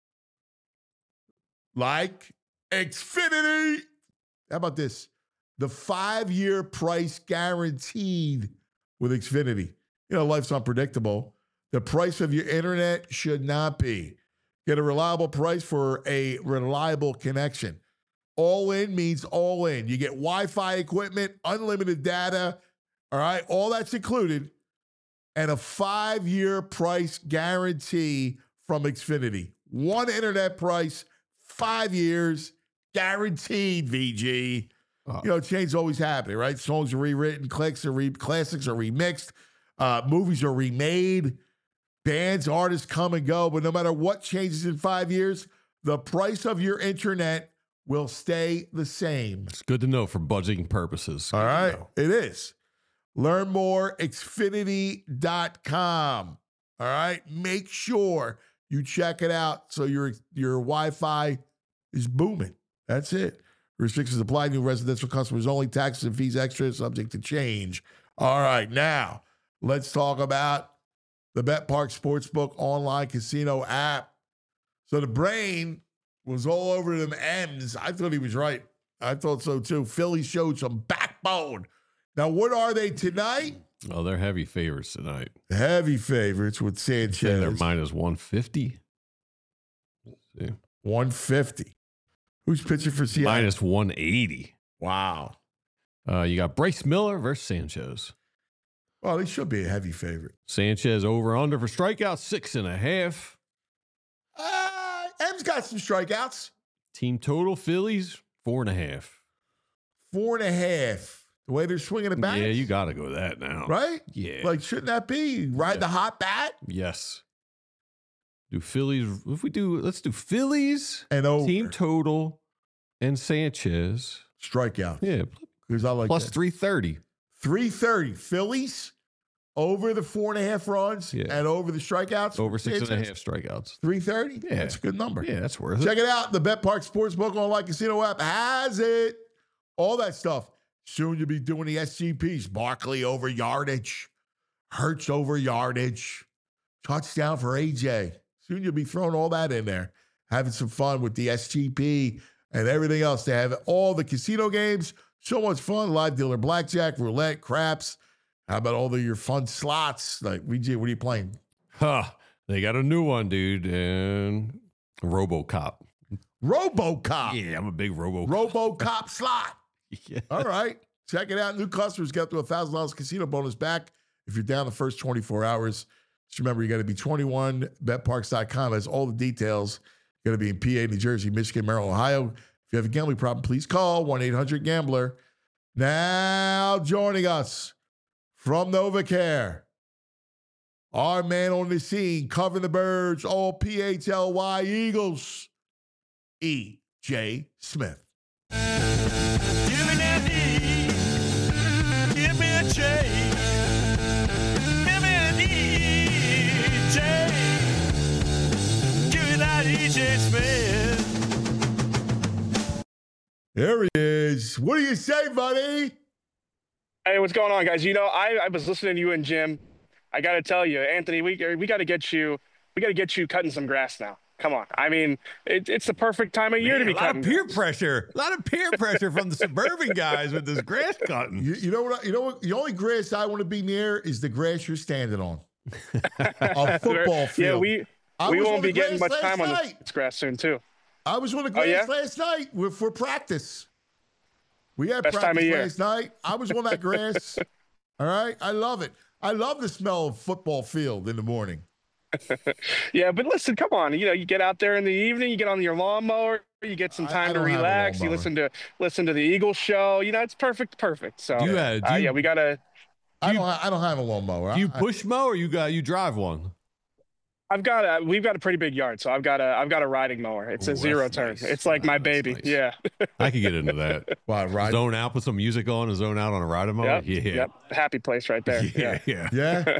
Like Xfinity. How about this? The 5-year price guaranteed with Xfinity. Life's unpredictable. The price of your internet should not be. Get a reliable price for a reliable connection. All in means all in. You get Wi-Fi equipment, unlimited data, all right? All that's included. And a 5-year price guarantee from Xfinity. One internet price, 5 years, guaranteed, VG. Change always happening, right? Songs are rewritten, classics are remixed, movies are remade, bands, artists come and go. But no matter what changes in 5 years, the price of your internet will stay the same. It's good to know for budgeting purposes. All right, it is. Learn more, Xfinity.com. All right, make sure you check it out so your Wi-Fi is booming. That's it. Restrictions apply. New residential customers only. Taxes and fees extra, subject to change. All right, now let's talk about the BetPark Sportsbook online casino app. So the brain was all over them M's. I thought he was right. I thought so too. Philly showed some backbone. Now, what are they tonight? Oh, they're heavy favorites tonight. Heavy favorites with Sanchez. They're minus 150. Let's see. 150. Who's pitching for Seattle? Minus 180. Wow. You got Bryce Miller versus Sanchez. Well, they should be a heavy favorite. Sanchez over under for strikeouts, 6.5. M's got some strikeouts. Team total Phillies 4.5. 4.5. The way they're swinging the bat. Yeah, you got to go that now. Right? Yeah. Like, shouldn't that be? Ride the hot bat? Yes. Do Phillies, let's do Phillies And over. team total and Sanchez. Strikeouts. Yeah. Because I like Plus that. 330. 330. Phillies over the 4.5 runs and over the strikeouts. Over 6.5 strikeouts. 330? Yeah. That's a good number. Yeah, that's worth Check it. it out. The Bet Park Sportsbook online casino app has it. All that stuff. Soon you'll be doing the SGPs. Barkley over yardage. Hurts over yardage. Touchdown for AJ. Soon you'll be throwing all that in there. Having some fun with the SGP and everything else. They have all the casino games. So much fun. Live dealer blackjack, roulette, craps. How about all your fun slots? Like, VJ, what are you playing? They got a new one, dude. And RoboCop. RoboCop. Yeah, I'm a big RoboCop. RoboCop slot. Yeah. All right. Check it out. New customers get up to $1,000 casino bonus back if you're down the first 24 hours. Just remember, you got to be 21. BetParks.com has all the details. Got to be in PA, New Jersey, Michigan, Maryland, Ohio. If you have a gambling problem, please call 1-800-GAMBLER. Now joining us from NovaCare, our man on the scene, covering the birds, all PHLY Eagles, E.J. Smith. Give me that E, give me a J, give me an EJ, give me that EJ Smith. There he is. What do you say, buddy? Hey, what's going on, guys? You know, I was listening to you and Jim. I got to tell you, Anthony, we got to get you cutting some grass now. Come on. I mean, it's the perfect time of year to be cutting. A lot of peer pressure from the suburban guys with this grass cutting. You know what? The only grass I want to be near is the grass you're standing on. A football field. Yeah, we won't be getting much time on this grass soon, too. I was on the grass last night for practice. We had Best time of practice year. last night. I was on that grass. All right. I love it. I love the smell of football field in the morning. Yeah, but listen, come on. You know, you get out there in the evening, you get on your lawnmower, you get some time to relax, you listen to the Eagles show. You know, it's perfect. So we gotta. I don't have a lawnmower. Do you push mow or you drive one? We've got a pretty big yard, so I've got a riding mower. It's a zero turn. Nice. It's like my baby. Nice. Yeah. I could get into that. Wow, ride. Zone out, put some music on, and zone out on a riding mower. Yep. Happy place right there. Yeah. Yeah.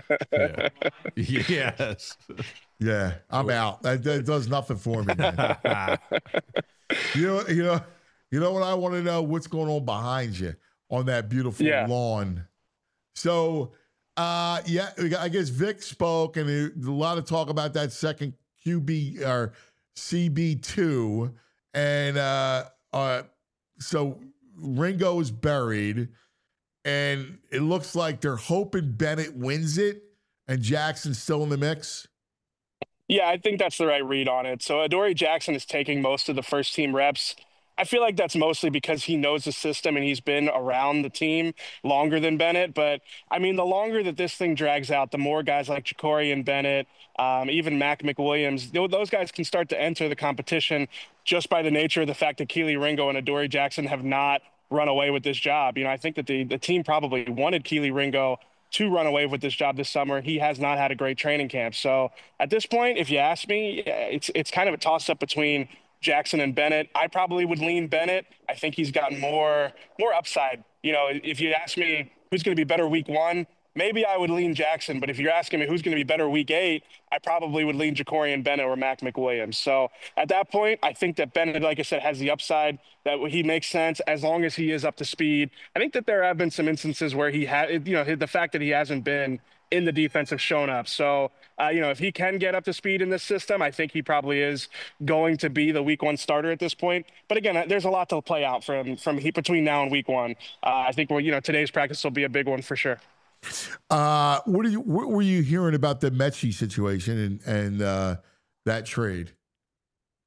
Yes. Yeah. I'm out. That does nothing for me, man. You know what I want to know? What's going on behind you on that beautiful lawn? So, I guess Vic spoke, and a lot of talk about that second QB or CB2, and so Ringo is buried, and it looks like they're hoping Bennett wins it, and Jackson's still in the mix. Yeah, I think that's the right read on it. So Adoree Jackson is taking most of the first team reps. I feel like that's mostly because he knows the system and he's been around the team longer than Bennett. But, I mean, the longer that this thing drags out, the more guys like Ja'Cory Bennett, even Mac McWilliams, those guys can start to enter the competition just by the nature of the fact that Kelee Ringo and Adoree Jackson have not run away with this job. You know, I think that the team probably wanted Kelee Ringo to run away with this job this summer. He has not had a great training camp. So at this point, if you ask me, it's kind of a toss-up between Jackson and Bennett. I probably would lean Bennett. I think he's got more upside. You know, if you ask me who's going to be better week 1, maybe I would lean Jackson. But if you're asking me who's going to be better week 8, I probably would lean Ja'Cory Bennett or Mac McWilliams. So at that point, I think that Bennett, like I said, has the upside, that he makes sense as long as he is up to speed. I think that there have been some instances where he had, the fact that he hasn't been in the defense have shown up. So, if he can get up to speed in this system, I think he probably is going to be the week 1 starter at this point. But again, there's a lot to play out from between now and week 1. I think today's practice will be a big one for sure. What were you hearing about the Mechie situation and that trade?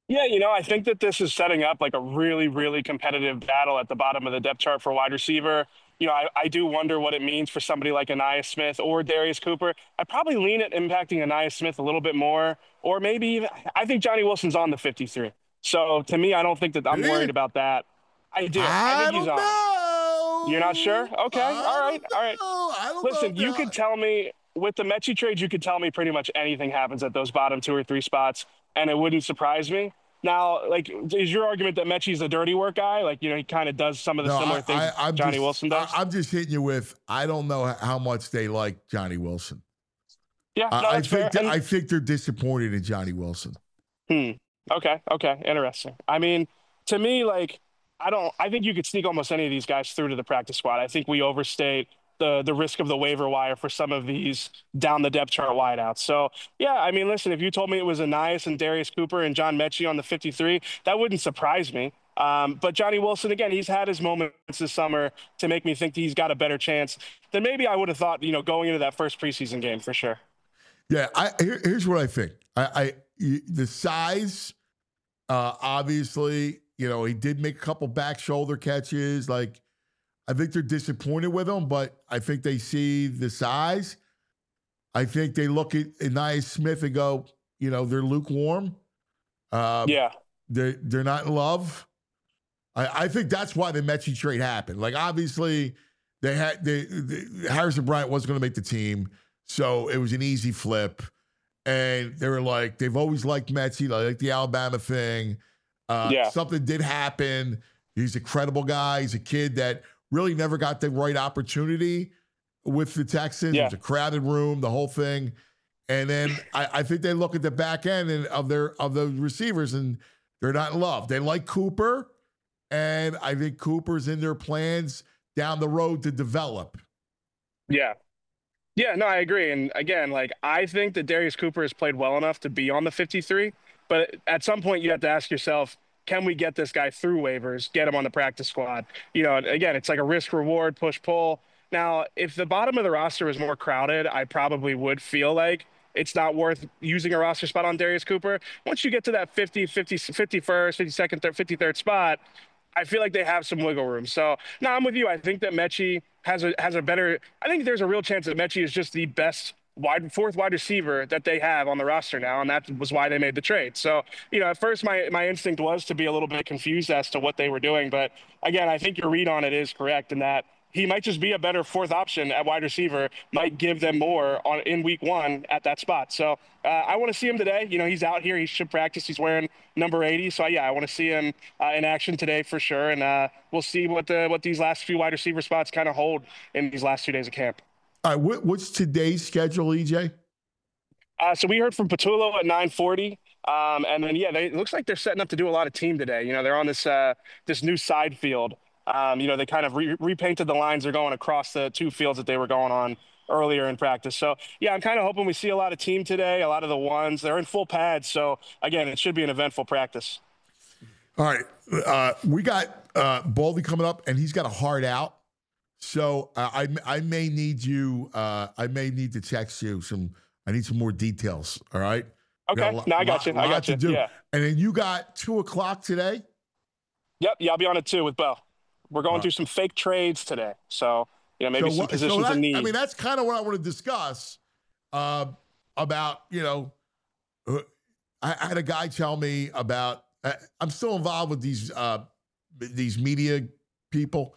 Yeah, I think that this is setting up like a really, really competitive battle at the bottom of the depth chart for wide receiver. I do wonder what it means for somebody like Anais Smith or Darius Cooper. I'd probably lean at impacting Anais Smith a little bit more, or maybe even, I think Johnny Wilson's on the 53. So to me, I don't think that I'm worried about that. I do. I think he's on. Know. You're not sure? Okay. All right. I don't Listen, know. you could tell me with the Mechie trade, you could tell me pretty much anything happens at those bottom 2 or 3 spots, and it wouldn't surprise me. Now, like, is your argument that Mechie's a dirty work guy? Like, he kind of does some of the similar things Johnny Wilson does? I'm just hitting you with, I don't know how much they like Johnny Wilson. Yeah, no, that's fair. I think they're disappointed in Johnny Wilson. Okay. Interesting. I mean, to me, like, I think you could sneak almost any of these guys through to the practice squad. I think we overstate the risk of the waiver wire for some of these down the depth chart wideouts. So, yeah, I mean, listen, if you told me it was Anais and Darius Cooper and John Mechie on the 53, that wouldn't surprise me. But Johnny Wilson, again, he's had his moments this summer to make me think he's got a better chance than maybe I would have thought, going into that first preseason game for sure. Yeah, here's what I think. The size, obviously, he did make a couple back shoulder catches. Like, I think they're disappointed with him, but I think they see the size. I think they look at Anais Smith and go, they're lukewarm. Yeah. They're not in love. I think that's why the Mechie trade happened. Like, obviously, Harrison Bryant wasn't going to make the team, so it was an easy flip. And they were like, they've always liked Mechie, like the Alabama thing. Something did happen. He's a credible guy. He's a kid that really never got the right opportunity with the Texans. Yeah. It was a crowded room, the whole thing. And then I think they look at the back end of the receivers, and they're not in love. They like Cooper, and I think Cooper's in their plans down the road to develop. Yeah. Yeah, no, I agree. And again, like, I think that Darius Cooper has played well enough to be on the 53, but at some point you have to ask yourself, can we get this guy through waivers, get him on the practice squad? Again, it's like a risk reward, push pull. Now, if the bottom of the roster was more crowded, I probably would feel like it's not worth using a roster spot on Darius Cooper. Once you get to that 51st, 52nd, 53rd spot, I feel like they have some wiggle room. So, no, I'm with you. I think that Mechie has a better – I think there's a real chance that Mechie is just the best fourth wide receiver that they have on the roster now, and that was why they made the trade. So, at first my instinct was to be a little bit confused as to what they were doing. But, again, I think your read on it is correct in that he might just be a better fourth option at wide receiver, might give them more in week 1 at that spot. So I want to see him today. He's out here. He should practice. He's wearing number 80. So, yeah, I want to see him in action today for sure. And we'll see what these last few wide receiver spots kind of hold in these last 2 days of camp. All right, what's today's schedule, EJ? So we heard from Patullo at 9:40. And then, it looks like they're setting up to do a lot of team today. They're on this new side field. They kind of repainted the lines. They're going across the 2 fields that they were going on earlier in practice. So, yeah, I'm kind of hoping we see a lot of team today, a lot of the ones. They're in full pads. So, again, it should be an eventful practice. All right. We got Baldy coming up, and he's got a hard out. So I may need you. I may need to text you I need some more details. All right. Okay. I got you. I got you. Yeah. And then you got 2:00 today. Yep. Yeah, I'll be on at 2 with Bo. We're going through some fake trades today. So, maybe some positions in need. I mean, that's kind of what I want to discuss about, I had a guy tell me about, I'm still involved with these media people,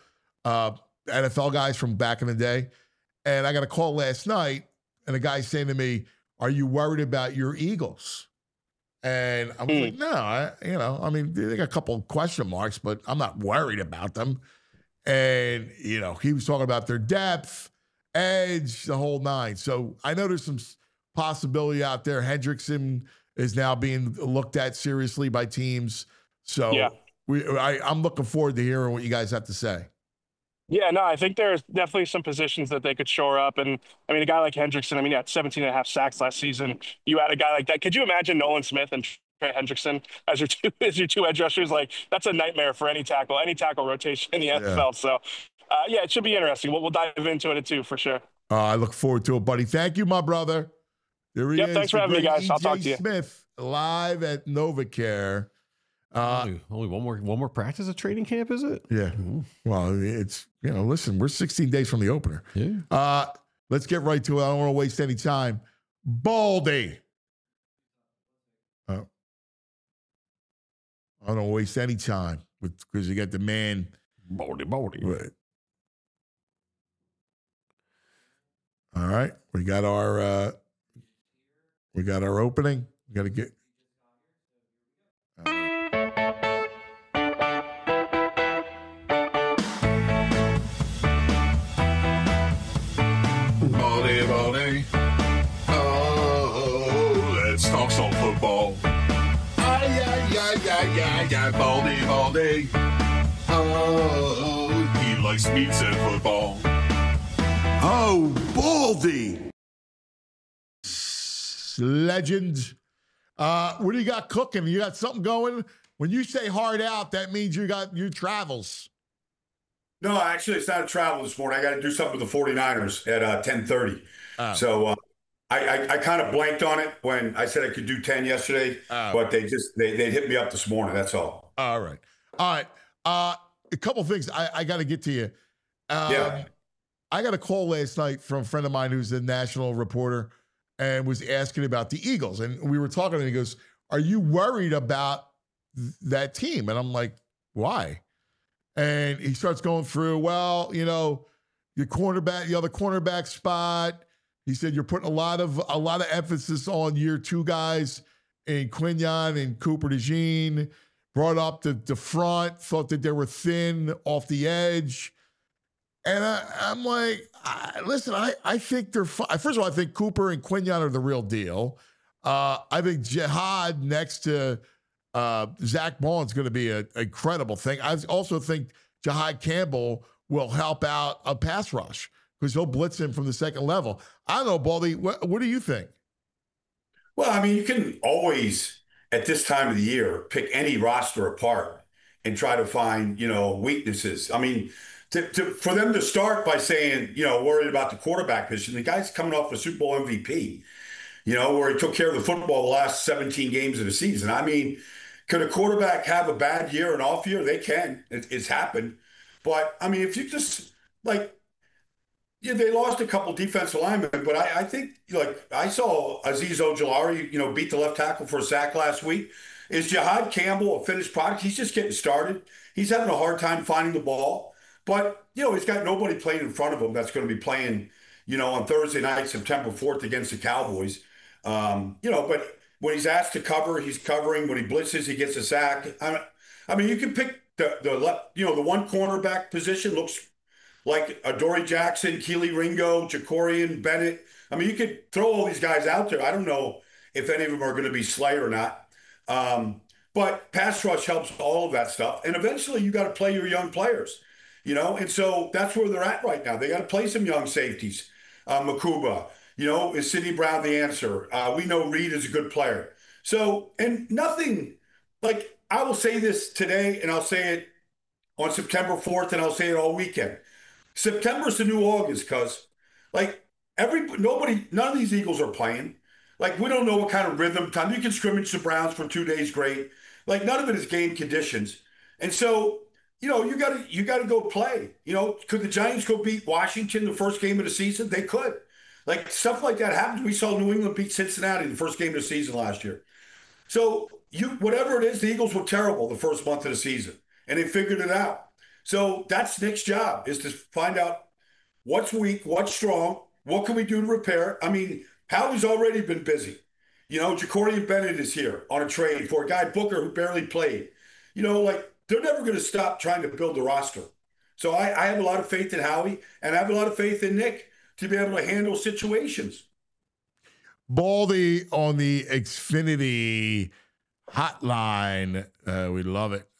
NFL guys from back in the day. And I got a call last night, and a guy saying to me, "Are you worried about your Eagles?" And I was like, no, they got a couple of question marks, but I'm not worried about them. And, he was talking about their depth, edge, the whole 9. So I know there's some possibility out there. Hendrickson is now being looked at seriously by teams. So I'm looking forward to hearing what you guys have to say. Yeah, no, I think there's definitely some positions that they could shore up. And, a guy like Hendrickson, he had 17 and a half sacks last season. You add a guy like that. Could you imagine Nolan Smith and Trey Hendrickson as your two edge rushers? Like, that's a nightmare for any tackle rotation in the NFL. So, it should be interesting. We'll dive into it at 2 for sure. I look forward to it, buddy. Thank you, my brother. There he is. Thanks for having me, guys. I'll talk to you. Smith, live at NovaCare. Only one more practice at training camp, is it? Yeah. Well, it's, listen, we're 16 days from the opener. Yeah. Let's get right to it. I don't want to waste any time. Baldy. I don't waste any time because you got the man. Baldy. Right. All right. We got our opening. We got to get. Baldy. Oh, let's talk some football. Yeah, Baldy. Oh, he likes meats and football. Oh, Baldy. Legend. What do you got cooking? You got something going? When you say hard out, that means you got your travels. No, actually, it's not a travel this morning. I got to do something with the 49ers at 10:30. So I kind of blanked on it when I said I could do 10 yesterday, but they hit me up this morning. That's all. All right. A couple things I got to get to you. Yeah. I got a call last night from a friend of mine who's a national reporter and was asking about the Eagles. And we were talking and he goes, "Are you worried about that team?" And I'm like, "Why?" And he starts going through, well, the cornerback spot. He said you're putting a lot of emphasis on year two guys in Quinyon and Cooper DeJean. Brought up the front, thought that they were thin off the edge. And I'm like, listen, I think they're fine. First of all, I think Cooper and Quinyon are the real deal. I think Jihad next to Zach Ball is going to be an incredible thing. I also think Jihad Campbell will help out a pass rush because he'll blitz him from the second level. I don't know, Baldy, what do you think? Well, I mean, you can always, at this time of the year, pick any roster apart and try to find, weaknesses. I mean, for them to start by saying, worried about the quarterback position, the guy's coming off a Super Bowl MVP, where he took care of the football the last 17 games of the season. I mean, could a quarterback have a bad year, an off year? They can. It's happened. But, I mean, if you just, they lost a couple defensive linemen, but I think, I saw Azeez Ojulari, beat the left tackle for a sack last week. Is Jihad Campbell a finished product? He's just getting started. He's having a hard time finding the ball. But, he's got nobody playing in front of him that's going to be playing, on Thursday night, September 4th against the Cowboys. But when he's asked to cover, he's covering. When he blitzes, he gets a sack. I mean, you can pick the one cornerback position looks like Adoree Jackson, Keely Ringo, Jacorian, Bennett. I mean, you could throw all these guys out there. I don't know if any of them are going to be Slayer or not. But pass rush helps all of that stuff. And eventually you got to play your young players, and so that's where they're at right now. They got to play some young safeties. Makuba, is Sidney Brown the answer? We know Reed is a good player. So, and nothing, I will say this today, and I'll say it on September 4th, and I'll say it all weekend. September's the new August, cuz none of these Eagles are playing. We don't know what kind of rhythm time. You can scrimmage the Browns for 2 days, great. None of it is game conditions. And so, you gotta go play. Could the Giants go beat Washington the first game of the season? They could. Stuff like that happens. We saw New England beat Cincinnati the first game of the season last year. So whatever it is, the Eagles were terrible the first month of the season, and they figured it out. So that's Nick's job, is to find out what's weak, what's strong, what can we do to repair it. I mean, Howie's already been busy. Jacorian Bennett is here on a trade for a guy, Booker, who barely played. They're never going to stop trying to build the roster. So I have a lot of faith in Howie, and I have a lot of faith in Nick to be able to handle situations. Baldy on the Xfinity hotline. We love it.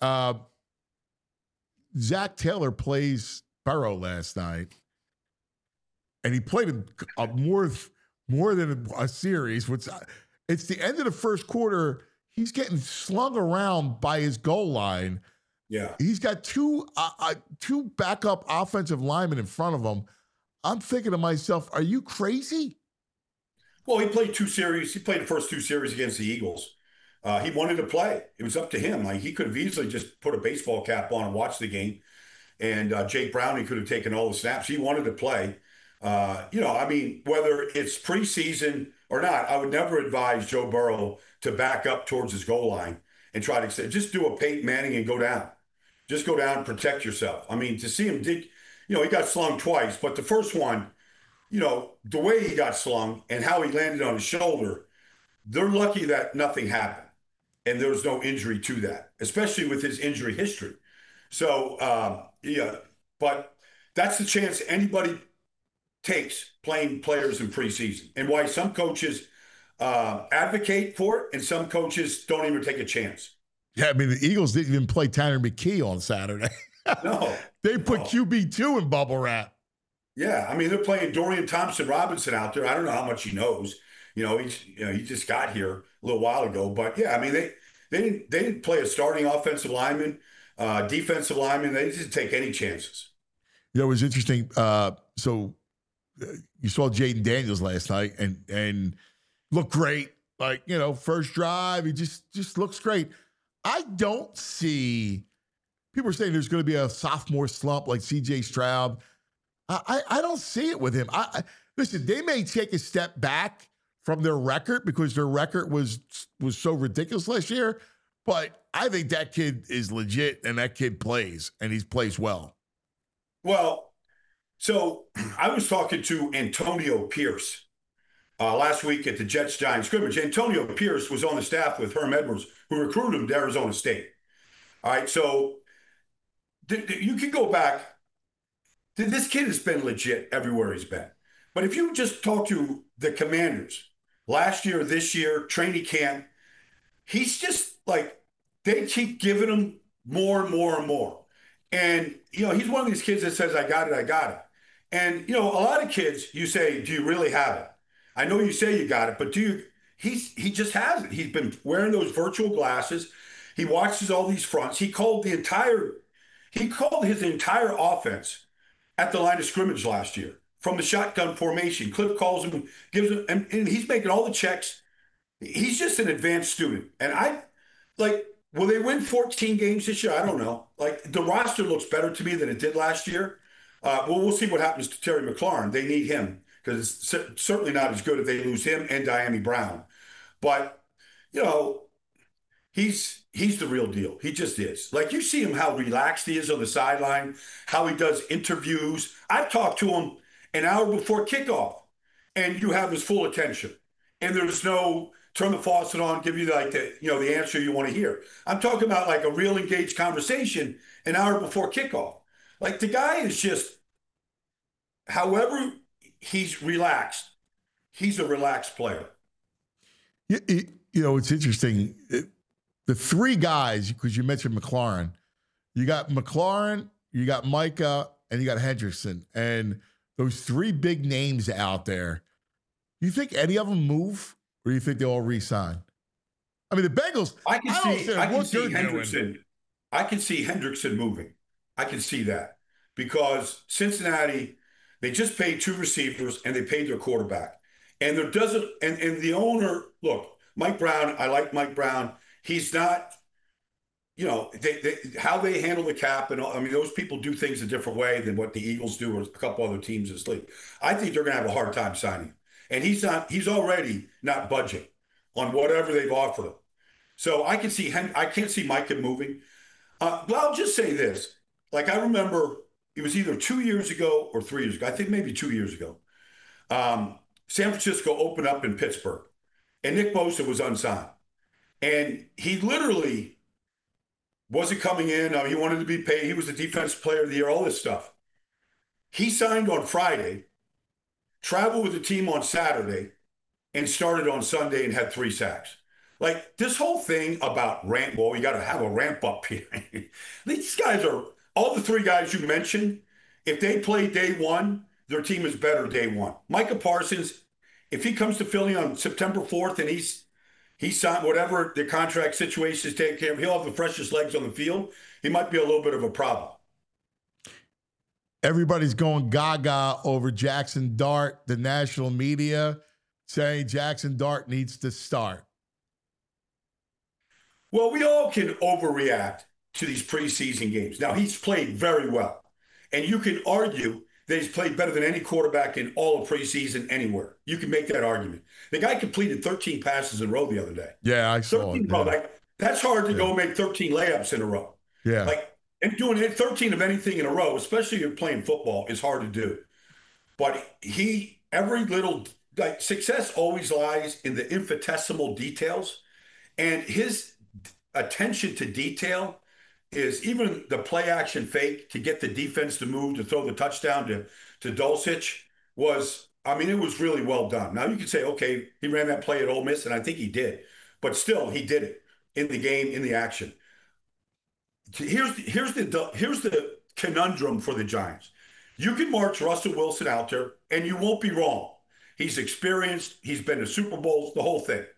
Zach Taylor plays Burrow last night, and he played more than a series. It's the end of the first quarter. He's getting slung around by his goal line. Yeah, he's got two backup offensive linemen in front of him. I'm thinking to myself, are you crazy? Well, he played 2 series. He played the first 2 series against the Eagles. He wanted to play. It was up to him. Like, he could have easily just put a baseball cap on and watched the game. And Jake Browning could have taken all the snaps. He wanted to play. I mean, whether it's preseason or not, I would never advise Joe Burrow to back up towards his goal line and try to just do a Peyton Manning and go down. Just go down and protect yourself. I mean, to see him dig, he got slung twice, but the first one, the way he got slung and how he landed on his shoulder, they're lucky that nothing happened and there was no injury to that, especially with his injury history. So, but that's the chance anybody takes playing players in preseason, and why some coaches advocate for it and some coaches don't even take a chance. Yeah, I mean, the Eagles didn't even play Tanner McKee on Saturday. No. They put QB2 in bubble wrap. Yeah, I mean, they're playing Dorian Thompson-Robinson out there. I don't know how much he knows. He just got here a little while ago. But, yeah, I mean, they didn't play a starting offensive lineman, defensive lineman. They didn't take any chances. It was interesting. So you saw Jaden Daniels last night and looked great. Like, first drive, he just looks great. I don't see – people are saying there's going to be a sophomore slump like C.J. Stroud. I don't see it with him. Listen, they may take a step back from their record because their record was so ridiculous last year, but I think that kid is legit and that kid plays, and he plays well. Well, so I was talking to Antonio Pierce last week at the Jets-Giants scrimmage. Antonio Pierce was on the staff with Herm Edwards, who recruited him to Arizona State. All right, so you can go back. This kid has been legit everywhere he's been. But if you just talk to the Commanders last year, this year, training camp, he's just like, they keep giving him more and more and more. And, he's one of these kids that says, I got it. And, a lot of kids, you say, do you really have it? I know you say you got it, but he just has it. He's been wearing those virtual glasses. He watches all these fronts. He called his entire offense at the line of scrimmage last year from the shotgun formation. Cliff calls him, gives him, and he's making all the checks. He's just an advanced student. And will they win 14 games this year? I don't know. The roster looks better to me than it did last year. We'll see what happens to Terry McLaurin. They need him because it's certainly not as good if they lose him and Diami Brown. But, he's the real deal. He just is. You see him, how relaxed he is on the sideline, how he does interviews. I've talked to him an hour before kickoff, and you have his full attention. And there's no turn the faucet on, give you the answer you want to hear. I'm talking about a real engaged conversation an hour before kickoff. The guy is just, however he's relaxed, he's a relaxed player. It's interesting. The three guys, because you mentioned McLaurin, you got McLaurin, you got Micah, and you got Hendrickson. And those three big names out there, you think any of them move, or do you think they all re-sign? I mean, the Bengals, I can see Hendrickson moving. I can see that because Cincinnati, they just paid two receivers and they paid their quarterback. And there doesn't, and the owner, look, Mike Brown, I like Mike Brown. He's not, how they handle the cap and all, I mean, those people do things a different way than what the Eagles do or a couple other teams in this league. I think they're going to have a hard time signing. And he's already not budging on whatever they've offered him. So I can't see Micah moving. But I'll just say this. I remember it was either 2 years ago or 3 years ago. I think maybe 2 years ago. San Francisco opened up in Pittsburgh and Nick Bosa was unsigned. And he literally wasn't coming in. He wanted to be paid. He was the defensive player of the year, all this stuff. He signed on Friday, traveled with the team on Saturday, and started on Sunday and had 3 sacks. This whole thing about you got to have a ramp up here. These guys are, all the 3 guys you mentioned, if they play day one, their team is better day one. Micah Parsons, if he comes to Philly on September 4th and he's signed whatever the contract situation is taken care of, he'll have the freshest legs on the field. He might be a little bit of a problem. Everybody's going gaga over Jackson Dart, the national media saying Jackson Dart needs to start. Well, we all can overreact to these preseason games. Now, he's played very well. And you can argue that he's played better than any quarterback in all of preseason anywhere. You can make that argument. The guy completed 13 passes in a row the other day. Yeah, I saw 13 it. row, Yeah. like, that's hard to go make 13 layups in a row. Yeah. Like, and doing 13 of anything in a row, especially if you're playing football, is hard to do. But every little, like, success always lies in the infinitesimal details. And his attention to detail is even the play action fake to get the defense to move, to throw the touchdown to Dulcich was, I mean, it was really well done. Now you can say, okay, he ran that play at Ole Miss, and I think he did. But still, he did it in the game, in the action. Here's the conundrum for the Giants. You can march Russell Wilson out there, and you won't be wrong. He's experienced. He's been to Super Bowls, the whole thing.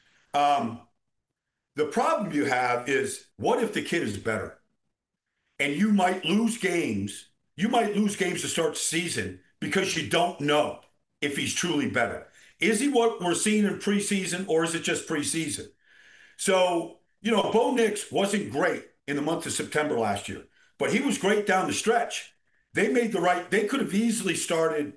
The problem you have is, what if the kid is better? And you might lose games. You might lose games to start the season because you don't know if he's truly better. Is he what we're seeing in preseason, or is it just preseason? So, Bo Nix wasn't great in the month of September last year, but he was great down the stretch. They could have easily started,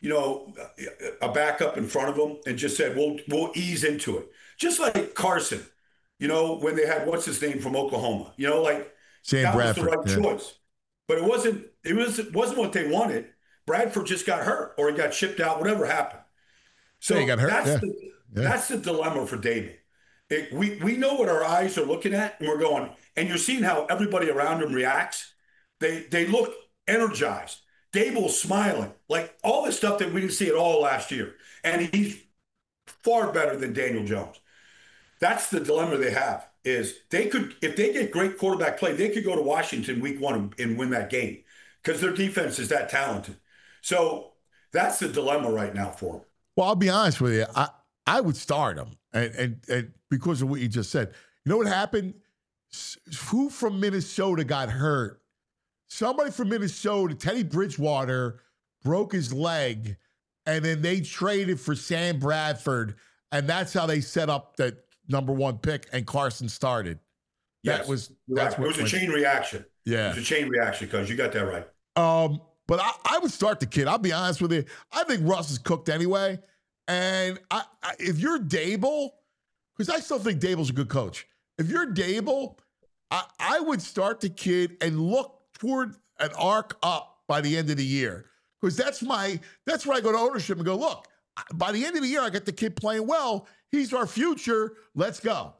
a backup in front of him and just said, we'll ease into it. Just like Carson, when they had, what's his name from Oklahoma, Sam that Bradford, was the right choice. But it wasn't what they wanted. Bradford just got hurt, or he got shipped out, whatever happened. So he got hurt. That's the dilemma for David. We know what our eyes are looking at, and we're going, and you're seeing how everybody around him reacts. They look energized. Dable's smiling, like all this stuff that we didn't see at all last year. And he's far better than Daniel Jones. That's the dilemma they have, is if they get great quarterback play, they could go to Washington week 1 and win that game because their defense is that talented. So that's the dilemma right now for them. Well, I'll be honest with you. I would start him, and because of what you just said. You know what happened? Who from Minnesota got hurt? Somebody from Minnesota, Teddy Bridgewater, broke his leg, and then they traded for Sam Bradford, and that's how they set up that number 1 pick, and Carson started. Yes, it was a chain reaction. Yeah. It was a chain reaction, because you got that right. But I would start the kid. I'll be honest with you. I think Russ is cooked anyway. And if you're Dable, because I still think Dable's a good coach. If you're Dable, I would start the kid and look toward an arc up by the end of the year. Because that's where I go to ownership and go, look, by the end of the year, I got the kid playing well. He's our future. Let's go.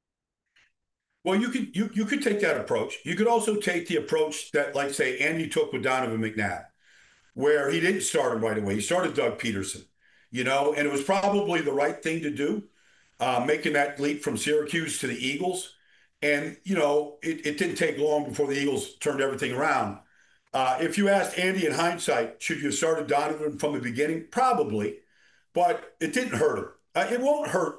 Well, you could take that approach. You could also take the approach that, like, say, Andy took with Donovan McNabb, where he didn't start him right away. He started Doug Peterson, and it was probably the right thing to do, making that leap from Syracuse to the Eagles. And, it didn't take long before the Eagles turned everything around. If you asked Andy in hindsight, should you have started Donovan from the beginning? Probably, but it didn't hurt him. It won't hurt.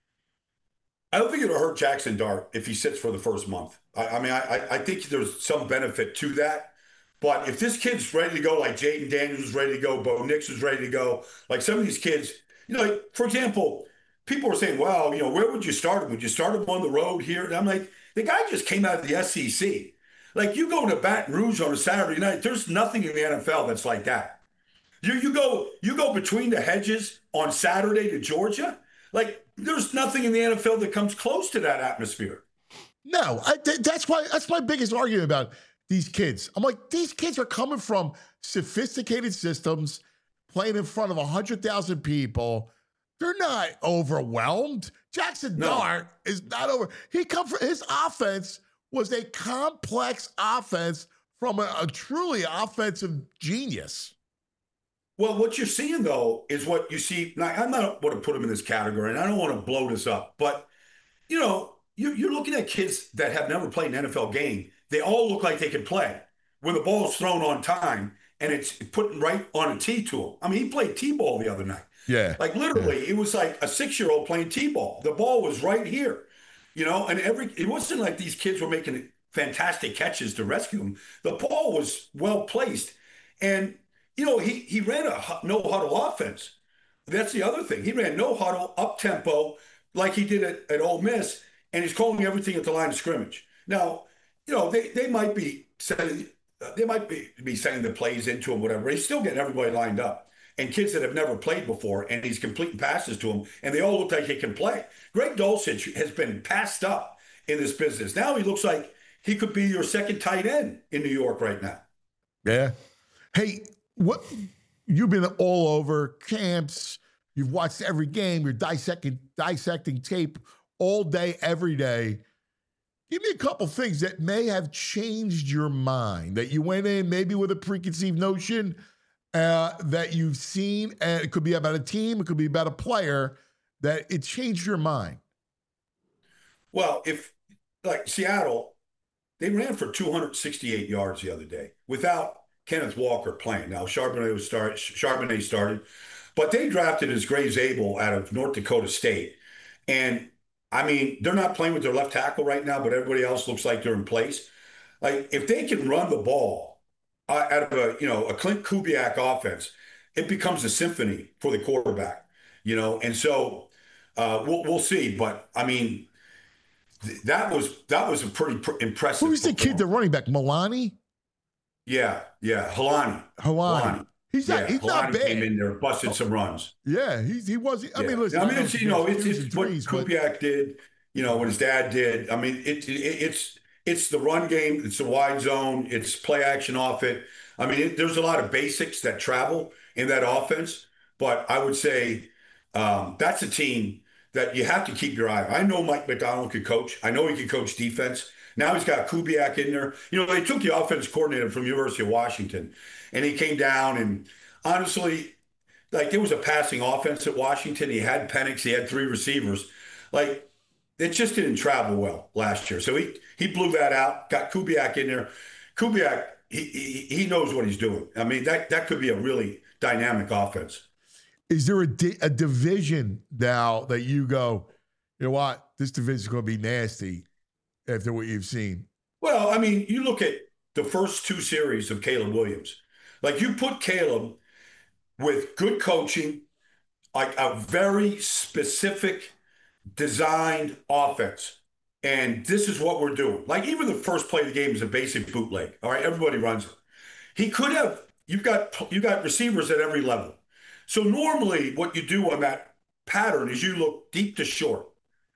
I don't think it'll hurt Jackson Dart if he sits for the first month. I think there's some benefit to that. But if this kid's ready to go, like Jaden Daniels is ready to go, Bo Nix is ready to go, like some of these kids, like, for example, people are saying, well, where would you start him? Would you start him on the road here? And I'm like, the guy just came out of the SEC. Like, you go to Baton Rouge on a Saturday night, there's nothing in the NFL that's like that. You go between the hedges on Saturday to Georgia. Like, there's nothing in the NFL that comes close to that atmosphere. No, that's my biggest argument about these kids. I'm like, these kids are coming from sophisticated systems, playing in front of 100,000 people. They're not overwhelmed. Jackson Dart is not over. His offense was a complex offense from a truly offensive genius. Well, what you're seeing, though, is what you see. Now, I'm not want to put them in this category, and I don't want to blow this up, but, you're looking at kids that have never played an NFL game. They all look like they can play when the ball is thrown on time and it's put right on a tee to him. I mean, he played T-ball the other night. Yeah. Like, literally, It was like a 6-year-old playing T-ball. The ball was right here, and it wasn't like these kids were making fantastic catches to rescue him. The ball was well placed. And, he ran a no-huddle offense. That's the other thing. He ran no-huddle, up-tempo, like he did at Ole Miss. and he's calling everything at the line of scrimmage. Now, they might be saying the plays into him, whatever. He's still getting everybody lined up, and kids that have never played before, and he's completing passes to them, and they all look like he can play. Greg Dulcich has been passed up in this business. Now he looks like he could be your second tight end in New York right now. Yeah. Hey, what? You've been all over camps. You've watched every game. You're dissecting tape all day, every day. Give me a couple things that may have changed your mind, that you went in maybe with a preconceived notion that you've seen, and it could be about a team, it could be about a player, that it changed your mind. Well, if like Seattle, they ran for 268 yards the other day without Kenneth Walker playing. Now, Charbonnet started, but they drafted as Graves Abel out of North Dakota State. And, I mean, they're not playing with their left tackle right now, but everybody else looks like they're in place. Like, if they can run the ball out of a Clint Kubiak offense, it becomes a symphony for the quarterback, And so we'll see. But, I mean, that was a pretty impressive. Who's the kid, the running back, Milani? Yeah, Helani. He's not bad. Came in there, busted some runs. Yeah, he was. I mean, listen. I mean, it's what Kubiak did. What his dad did. I mean, it's the run game. It's the wide zone. It's play action off it. I mean, there's a lot of basics that travel in that offense. But I would say that's a team that you have to keep your eye on. I know Mike McDonald could coach. I know he could coach defense. Now he's got Kubiak in there. They took the offense coordinator from University of Washington, and he came down, and honestly, like, it was a passing offense at Washington. He had Penix. He had 3 receivers. Like, it just didn't travel well last year. So he blew that out, got Kubiak in there. Kubiak, he knows what he's doing. I mean, that could be a really dynamic offense. Is there a division now that you go, you know what, this division is going to be nasty after what you've seen? Well, I mean, you look at the first 2 series of Caleb Williams. Like, you put Caleb with good coaching, like a very specific designed offense. And this is what we're doing. Like, even the first play of the game is a basic bootleg. All right, everybody runs it. He could have, you've got receivers at every level. So normally what you do on that pattern is you look deep to short.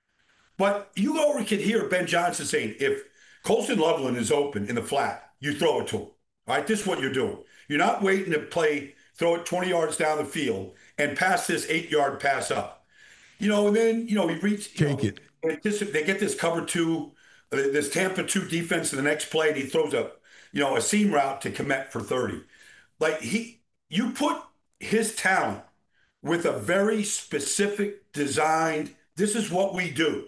But you already could hear Ben Johnson saying, if Colston Loveland is open in the flat, you throw it to him. All right, this is what you're doing. You're not waiting to throw it 20 yards down the field and pass this 8-yard pass up. And then, he reads. Take it. They get this cover 2, this Tampa 2 defense in the next play, and he throws a seam route to Kmet for 30. Like, you put his talent with a very specific designed, this is what we do.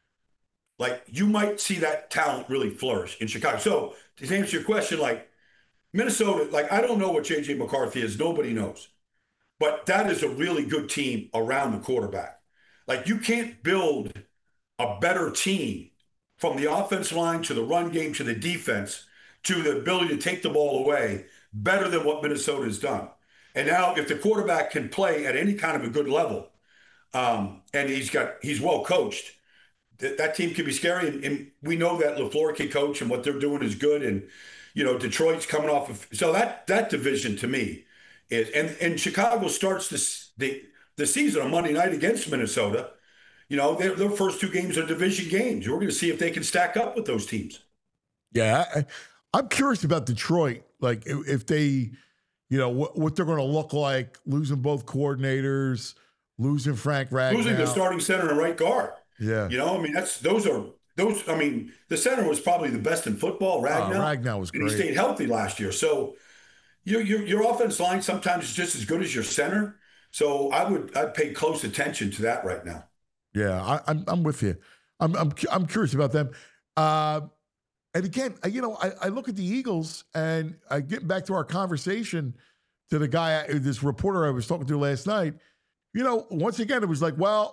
Like, you might see that talent really flourish in Chicago. So to answer your question, like, Minnesota, like, I don't know what J.J. McCarthy is. Nobody knows. But that is a really good team around the quarterback. Like, you can't build a better team from the offensive line to the run game to the defense to the ability to take the ball away better than what Minnesota has done. And now if the quarterback can play at any kind of a good level, and he's well coached, that team can be scary. And we know that LaFleur can coach, and what they're doing is good. And, Detroit's coming off of, so that division to me is, and Chicago starts the season on Monday night against Minnesota. Their first 2 games are division games. We're going to see if they can stack up with those teams. Yeah. I'm curious about Detroit. Like, if they, what they're going to look like, losing both coordinators, losing Frank Ragnow. Losing the starting center and right guard. Yeah. I mean, I mean, the center was probably the best in football, Ragnow. Ragnow was great. And he stayed healthy last year. So your offense line sometimes is just as good as your center. So I'd pay close attention to that right now. Yeah, I'm with you. I'm curious about them. And again, I look at the Eagles, and I get back to our conversation to the guy, this reporter I was talking to last night. Once again, it was like, well,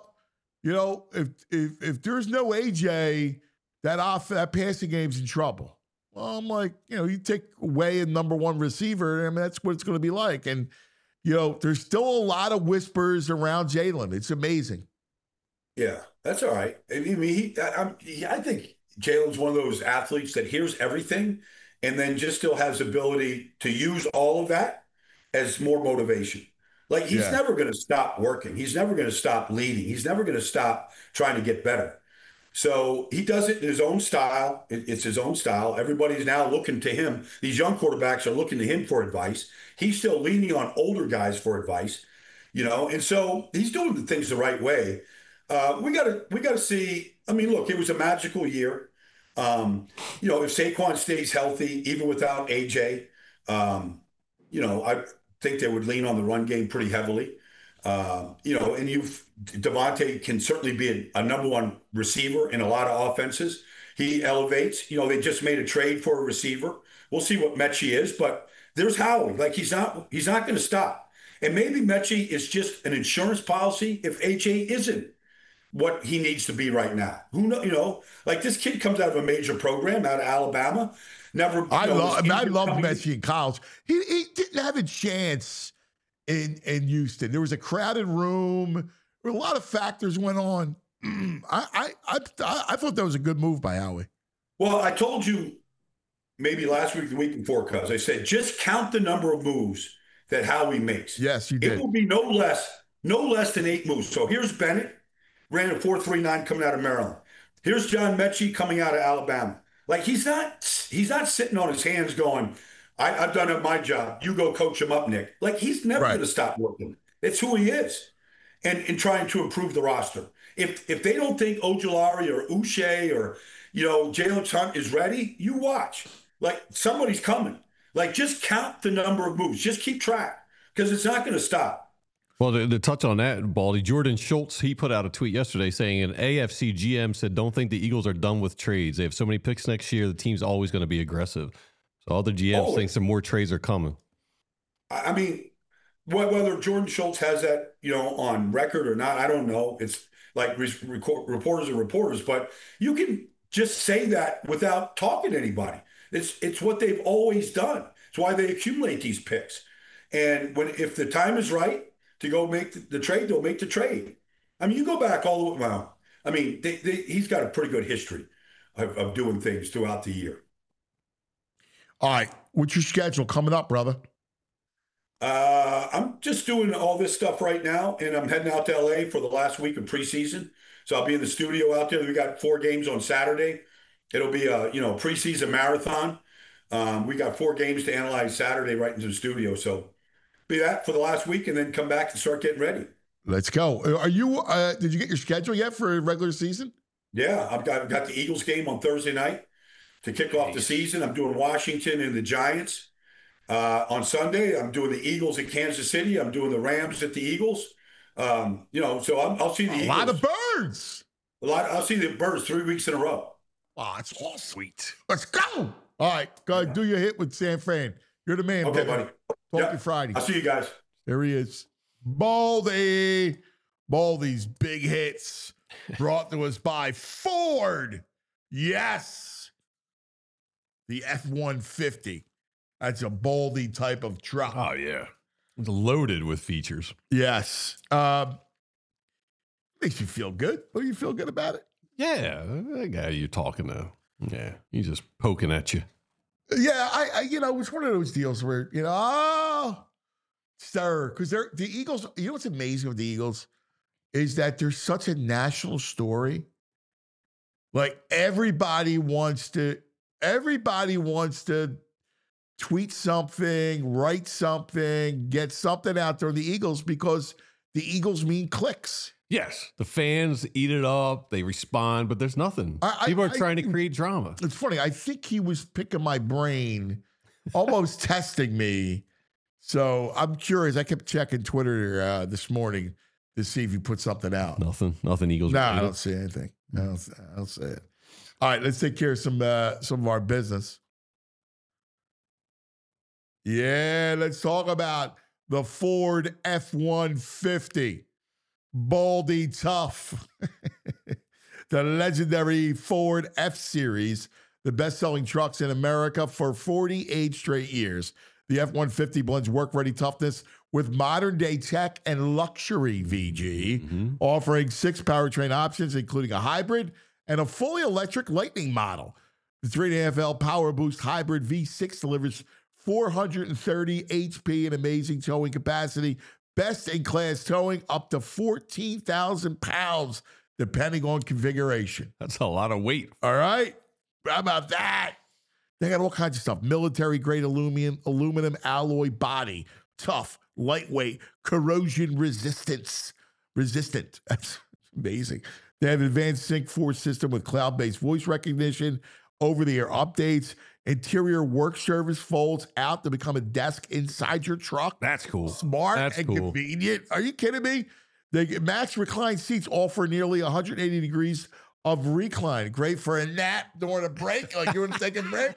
if there's no AJ, that passing game's in trouble. Well, I'm like, you take away a number 1 receiver, I mean, that's what it's going to be like. And there's still a lot of whispers around Jalen. It's amazing. Yeah, that's all right. I mean, I think Jalen's one of those athletes that hears everything and then just still has ability to use all of that as more motivation. Like he's Yeah. never going to stop working. He's never going to stop leading. He's never going to stop trying to get better. So he does it in his own style. It's his own style. Everybody's now looking to him. These young quarterbacks are looking to him for advice. He's still leaning on older guys for advice, and so he's doing the things the right way. We gotta see. I mean, look, it was a magical year. If Saquon stays healthy, even without AJ, I think they would lean on the run game pretty heavily. And Devontae can certainly be a number one receiver in a lot of offenses. He elevates. They just made a trade for a receiver. We'll see what Mechie is, but there's Howie. Like he's not going to stop. And maybe Mechie is just an insurance policy if AJ isn't what he needs to be right now. Who know? Like this kid comes out of a major program out of Alabama. I love Mechie in college. He didn't have a chance in Houston. There was a crowded room. A lot of factors went on. I thought that was a good move by Howie. Well, I told you maybe last week, the week before, cuz I said just count the number of moves that Howie makes. Yes, you did. It will be no less than 8 moves. So here's Bennett, ran a 4.39 coming out of Maryland. Here's John Mechie coming out of Alabama. Like he's not sitting on his hands going, I've done my job. You go coach him up, Nick. Like he's never going to stop working. It's who he is, and trying to improve the roster. If they don't think Ojulari or Uche or Jalen Hunt is ready, you watch. Like somebody's coming. Like just count the number of moves. Just keep track because it's not going to stop. Well, to touch on that, Baldy, Jordan Schultz, he put out a tweet yesterday saying an AFC GM said, don't think the Eagles are done with trades. They have so many picks next year, the team's always going to be aggressive. So other GMs think some more trades are coming. I mean, whether Jordan Schultz has that, on record or not, I don't know. It's like reporters are reporters, but you can just say that without talking to anybody. It's what they've always done. It's why they accumulate these picks. And if the time is right to go make the trade, they'll make the trade. I mean, you go back all the way. Well, I mean, he's got a pretty good history of doing things throughout the year. All right. What's your schedule coming up, brother? I'm just doing all this stuff right now, and I'm heading out to LA for the last week of preseason. So I'll be in the studio out there. We got 4 games on Saturday. It'll be a preseason marathon. We got 4 games to analyze Saturday right into the studio. So be that for the last week, and then come back and start getting ready. Let's go. Are you? Did you get your schedule yet for regular season? Yeah, I've got the Eagles game on Thursday night to kick off the season. I'm doing Washington and the Giants. On Sunday, I'm doing the Eagles at Kansas City. I'm doing the Rams at the Eagles. So I'll see the Eagles. A lot of birds. I'll see the birds 3 weeks in a row. Oh, it's all sweet. Let's go. All right, go ahead, do your hit with San Fran. You're the man, okay, buddy. Talk to you Friday. I'll see you guys. There he is. Baldy's big hits brought to us by Ford. Yes. The F-150. That's a Baldy type of truck. Oh, yeah. It's loaded with features. Yes. Makes you feel good. What do you feel good about it? Yeah. That guy you're talking to. Yeah. He's just poking at you. Yeah. I it's one of those deals where, sir, because the Eagles, what's amazing with the Eagles is that they're such a national story. Like everybody wants to tweet something, write something, get something out there on the Eagles because the Eagles mean clicks. Yes. The fans eat it up. They respond, but there's nothing. People are trying to create drama. It's funny. I think he was picking my brain, almost testing me. So I'm curious. I kept checking Twitter this morning to see if he put something out. Nothing Eagles. No, I don't see anything. I don't see it. All right, let's take care of some of our business. Yeah, let's talk about the Ford F-150. Baldy Tough. The legendary Ford F-Series, the best-selling trucks in America for 48 straight years. The F-150 blends work-ready toughness with modern-day tech and luxury, VG, offering 6 powertrain options, including a hybrid and a fully electric Lightning model. The 3.5L Power Boost Hybrid V6 delivers 430 HP and amazing towing capacity, best-in-class towing up to 14,000 pounds, depending on configuration. That's a lot of weight. All right? How about that? They got all kinds of stuff. Military-grade aluminum alloy body. Tough, lightweight, corrosion resistant. That's amazing. They have advanced Sync 4 system with cloud-based voice recognition, over-the-air updates, interior work surface folds out to become a desk inside your truck. That's cool. Smart and convenient. Are you kidding me? They get max recline seats offer nearly 180 degrees of recline. Great for a nap during a break, like you want to take a break.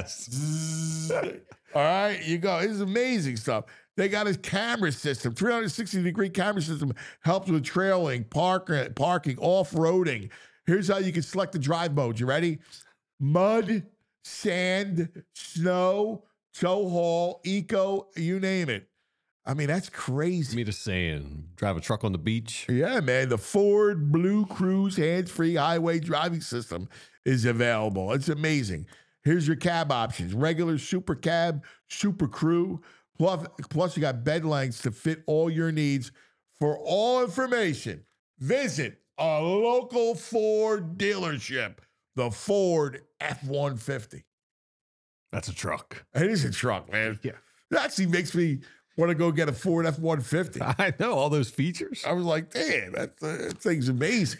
Yes. All right, you go. This is amazing stuff. They got a camera system, 360-degree camera system, helps with trailing, parking, off-roading. Here's how you can select the drive mode. You ready? Mud, sand, snow, tow haul, eco, you name it. I mean, that's crazy. Me to saying, drive a truck on the beach. Yeah, man. The Ford Blue Cruise hands-free highway driving system is available. It's amazing. Here's your cab options. Regular, super cab, super crew. Plus you got bed lengths to fit all your needs. For all information, visit a local Ford dealership. The Ford F-150. That's a truck. It is a truck, man. Yeah. It actually makes me want to go get a Ford F-150. I know, all those features. I was like, damn, that thing's amazing.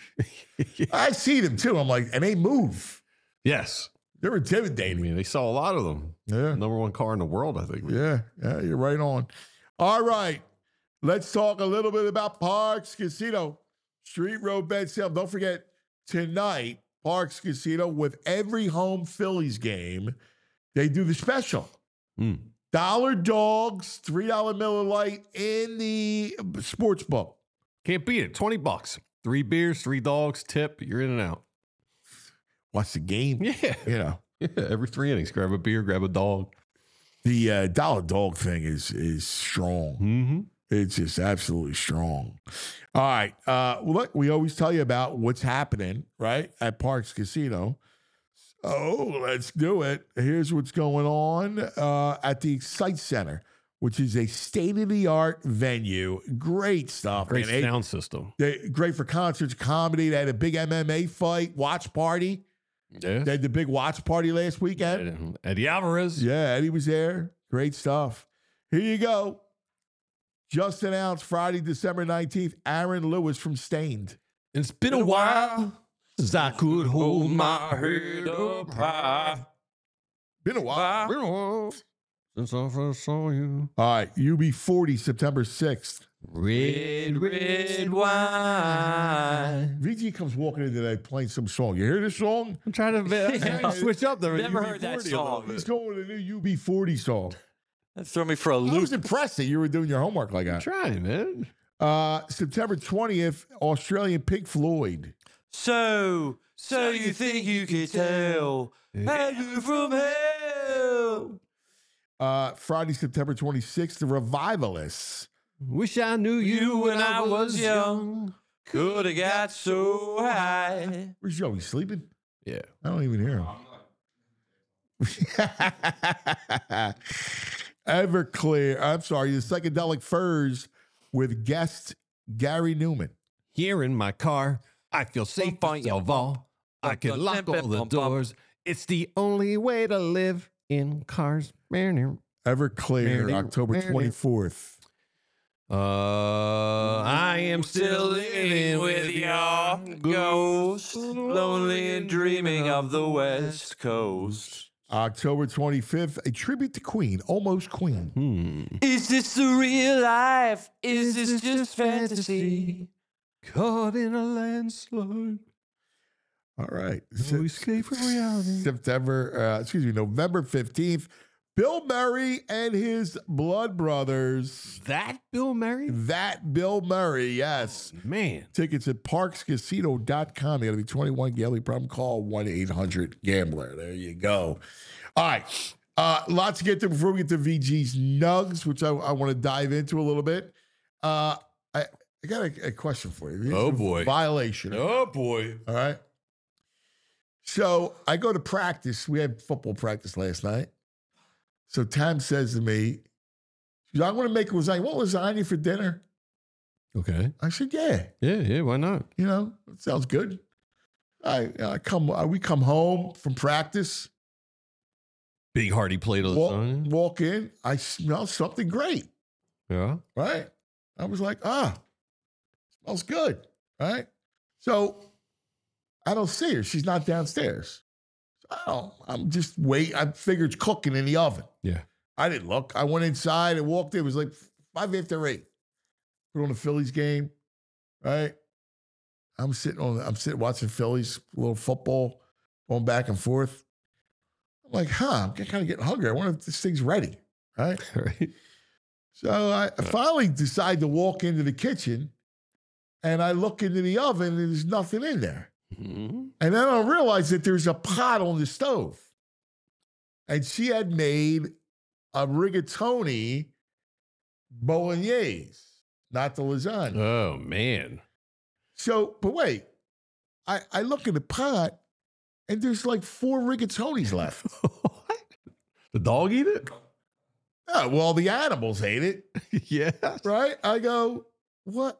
I see them too. I'm like, and they move. Yes. They're intimidating. I mean, they sell a lot of them. Yeah. Number one car in the world, I think. Yeah, you're right on. All right. Let's talk a little bit about Parx Casino. Street Road bed sale. Don't forget, tonight, Parx Casino, with every home Phillies game, they do the special. Dollar dogs, $3 Miller Lite in the sports book. Can't beat it. $20. 3 beers, 3 dogs, tip, you're in and out. Watch the game. Yeah. You know. Yeah, every 3 innings. Grab a beer, grab a dog. The dollar dog thing is strong. Mm-hmm. It's just absolutely strong. All right. Look, we always tell you about what's happening, right, at Parx Casino. So let's do it. Here's what's going on at the Excite Center, which is a state-of-the-art venue. Great stuff. Great man. sound system. Great for concerts, comedy. They had a big MMA fight, watch party. Yeah. They had the big watch party last weekend. Eddie Alvarez. Yeah, Eddie was there. Great stuff. Here you go. Just announced Friday, December 19th, Aaron Lewis from Stained. It's been a while since I could hold my head up high. Been a while. Been a while since I first saw you. All right, UB40, September 6th. Red, red wine. VG comes walking in today playing some song. You hear this song? I'm trying to switch up there. Never heard that song. He's going with a new UB40 song. That threw me for a I loop. was impressed that you were doing your homework like that. I'm trying, man. September 20th, Australian Pink Floyd. So you think you could tell? Heaven from hell. Friday, September 26th, The Revivalists. Wish I knew you when I was young. Could have got so high. Where's Joe? He's sleeping? Yeah. I don't even hear him. Everclear. I'm sorry, the Psychedelic Furs with guest Gary Newman. Here in my car, I feel safe by Yalval. I can lock all the doors. It's the only way to live in cars. Everclear, October 24th. I am still living with your ghost, lonely and dreaming of the West Coast. October 25th, a tribute to Queen, Almost Queen. Is this the real life? Is this just fantasy? Caught in a landslide. All right. No escape from reality. November 15th, Bill Murray and his blood brothers. That Bill Murray? That Bill Murray, yes. Oh, man. Tickets at parkscasino.com. You got to be 21. Gambling problem, call 1-800-GAMBLER. There you go. All right. Lots to get to before we get to VG's Nugs, which I want to dive into a little bit. I got a question for you. Oh, boy. Violation. Oh, boy. All right. So I go to practice. We had football practice last night. So Tam says to me, she goes, I want to make lasagna. Want lasagna for dinner? Okay. I said, yeah. Yeah, why not? You know, it sounds good. We come home from practice. Big hearty plate of lasagna. Walk in. I smell something great. Yeah. Right? I was like, smells good. Right? So I don't see her. She's not downstairs. I'm just waiting. I figured it's cooking in the oven. Yeah. I didn't look. I went inside and walked in. It was like 5 after 8. Put on the Phillies game. Right? I'm sitting watching Phillies, a little football, going back and forth. I'm like, I'm kind of getting hungry. I wonder if this thing's ready. Right? Right. So I finally decide to walk into the kitchen and I look into the oven and there's nothing in there. Mm-hmm. And then I realize that there's a pot on the stove. And she had made a rigatoni bolognese, not the lasagna. Oh, man. So, but wait, I look in the pot and there's like 4 rigatonis left. What? The dog eat it? Oh, well, the animals ate it. Yeah. Right? I go, what?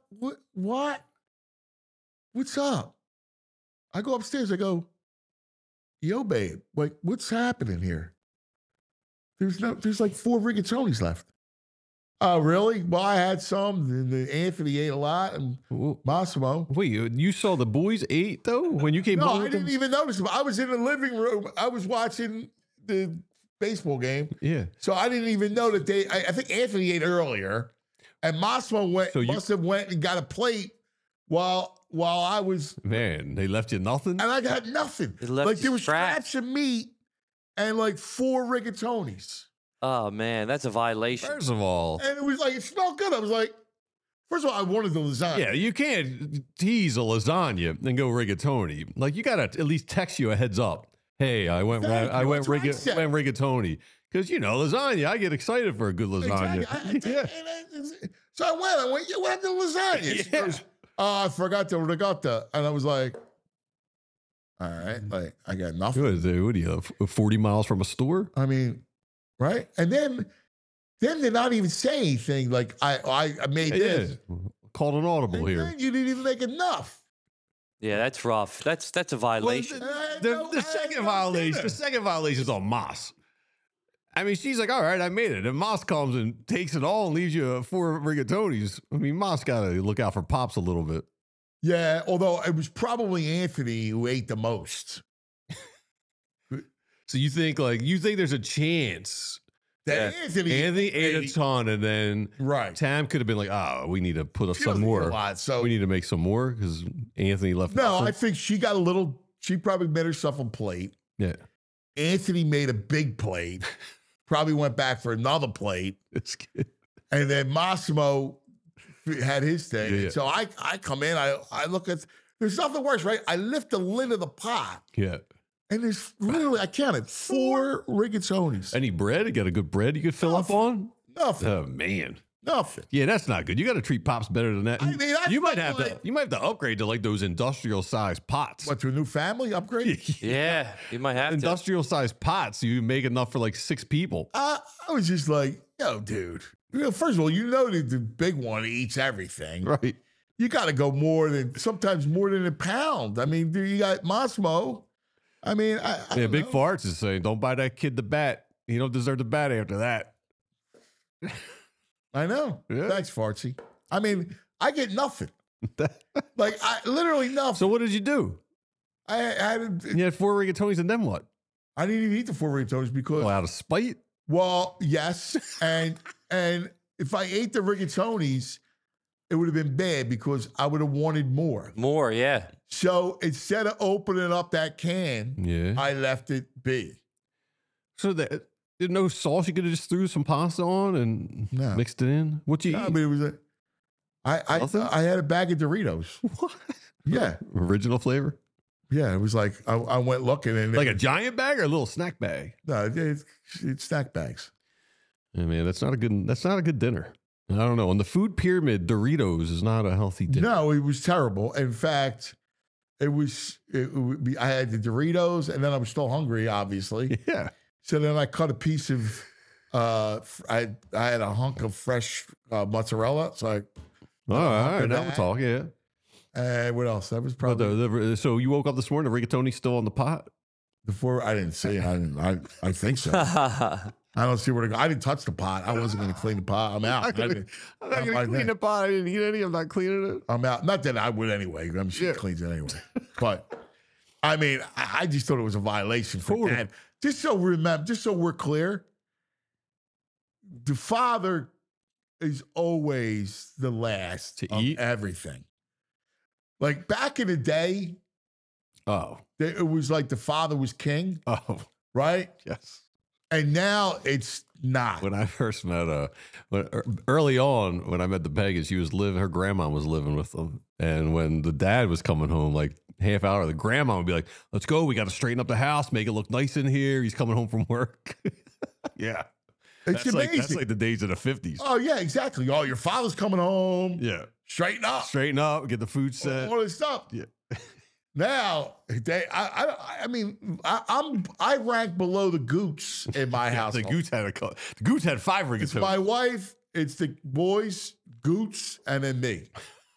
What's up? I go upstairs. I go, yo, babe, like, what's happening here? There's like 4 rigatonis left. Oh, really? Well, I had some. And Anthony ate a lot, and Massimo. Wait, you saw the boys ate, though, when you came home? No, I didn't even notice them. I was in the living room. I was watching the baseball game. Yeah. So I didn't even know that I think Anthony ate earlier, and Massimo must have went and got a plate while I was. Man, they left you nothing? And I got nothing. Like there was scraps of meat and like 4 rigatonis. Oh, man, that's a violation. First of all. And it was like, it smelled good. I was like, first of all, I wanted the lasagna. Yeah, you can't tease a lasagna and go rigatoni. Like, you got to at least text you a heads up. Hey, I went rigatoni. Because, lasagna, I get excited for a good lasagna. Exactly. So I went, what happened to lasagna? She goes, I forgot the ricotta. And I was like, all right, like, I got nothing. What are you, 40 miles from a store? I mean, right? And then they're not even saying anything like, I made this. Called an audible here. You didn't even make enough. Yeah, that's rough. That's a violation. Well, the second violation is on Moss. I mean, she's like, all right, I made it. And Moss comes and takes it all and leaves you 4 rigatonis. I mean, Moss got to look out for Pops a little bit. Yeah, although it was probably Anthony who ate the most. So you think there's a chance that Anthony ate a ton, and then Tam could have been like, we need to put up some more. So we need to make some more because Anthony left. No, I think she got a little. She probably made herself a plate. Yeah. Anthony made a big plate. Probably went back for another plate. That's good. And then Massimo had his thing. Yeah. So I come in. I look at. There's nothing worse, right? I lift the lid of the pot. Yeah. And there's literally, I counted 4 rigatonis. Any bread? You got a good bread you could fill up on? Nothing. Oh, man. Nothing. Yeah, that's not good. You got to treat Pops better than that. I mean, you might have to upgrade to like those industrial sized pots. What, to a new family upgrade? Yeah, you might have industrial sized pots. You make enough for like 6 people. I was just like, yo, dude. First of all, that the big one eats everything. Right. You got to go sometimes more than a pound. I mean, you got Massimo. I mean, I Big Farts is saying, don't buy that kid the bat. He don't deserve the bat after that. I know. Yeah. Thanks, Fartsy. I mean, I get nothing. Like, literally nothing. So what did you do? You had 4 rigatonis, and then what? I didn't even eat the 4 rigatonis because... out of spite? Well, yes. and if I ate the rigatonis, it would have been bad because I would have wanted more. More, yeah. So instead of opening up that can, I left it be. So there's no sauce? You could have just threw some pasta on and mixed it in? What you eat? I mean, it was I had a bag of Doritos. What? Yeah. Original flavor? Yeah, it was like I went looking and Like a giant bag or a little snack bag? no, it's snack bags. Yeah, man, that's not a good dinner. I don't know. On the food pyramid, Doritos is not a healthy dinner. No, it was terrible. In fact, I had the Doritos, and then I was still hungry, obviously. Yeah. So then I cut a piece of, I had a hunk of fresh mozzarella. So All right, now we'll talk. Yeah. And what else? That was probably So you woke up this morning, the rigatoni's still on the pot? before. I didn't see it. I think so. I don't see where to go. I didn't touch the pot. I wasn't going to clean the pot. I'm out. I'm not going to clean the pot. I didn't eat any. I'm not cleaning it. I'm out. Not that I would anyway. I'm sure she cleans it anyway. But I mean, I just thought it was a violation for Dad. Just so we're clear, the father is always the last to of eat everything. Like back in the day, it was like the father was king. Oh, right? Yes. And now it's not. When I first met early on, when I met the Pegas, her grandma was living with them. And when the dad was coming home, like half hour, the grandma would be like, let's go. We got to straighten up the house, make it look nice in here. He's coming home from work. Yeah. It's amazing. That's like the days of the 50s. Oh, yeah, exactly. Oh, your father's coming home. Yeah. Straighten up. Get the food set. All this stuff. Yeah. Now, I rank below the Goots in my house. The Goots had 5 rigatoni. It's my wife, it's the boys, Goots, and then me.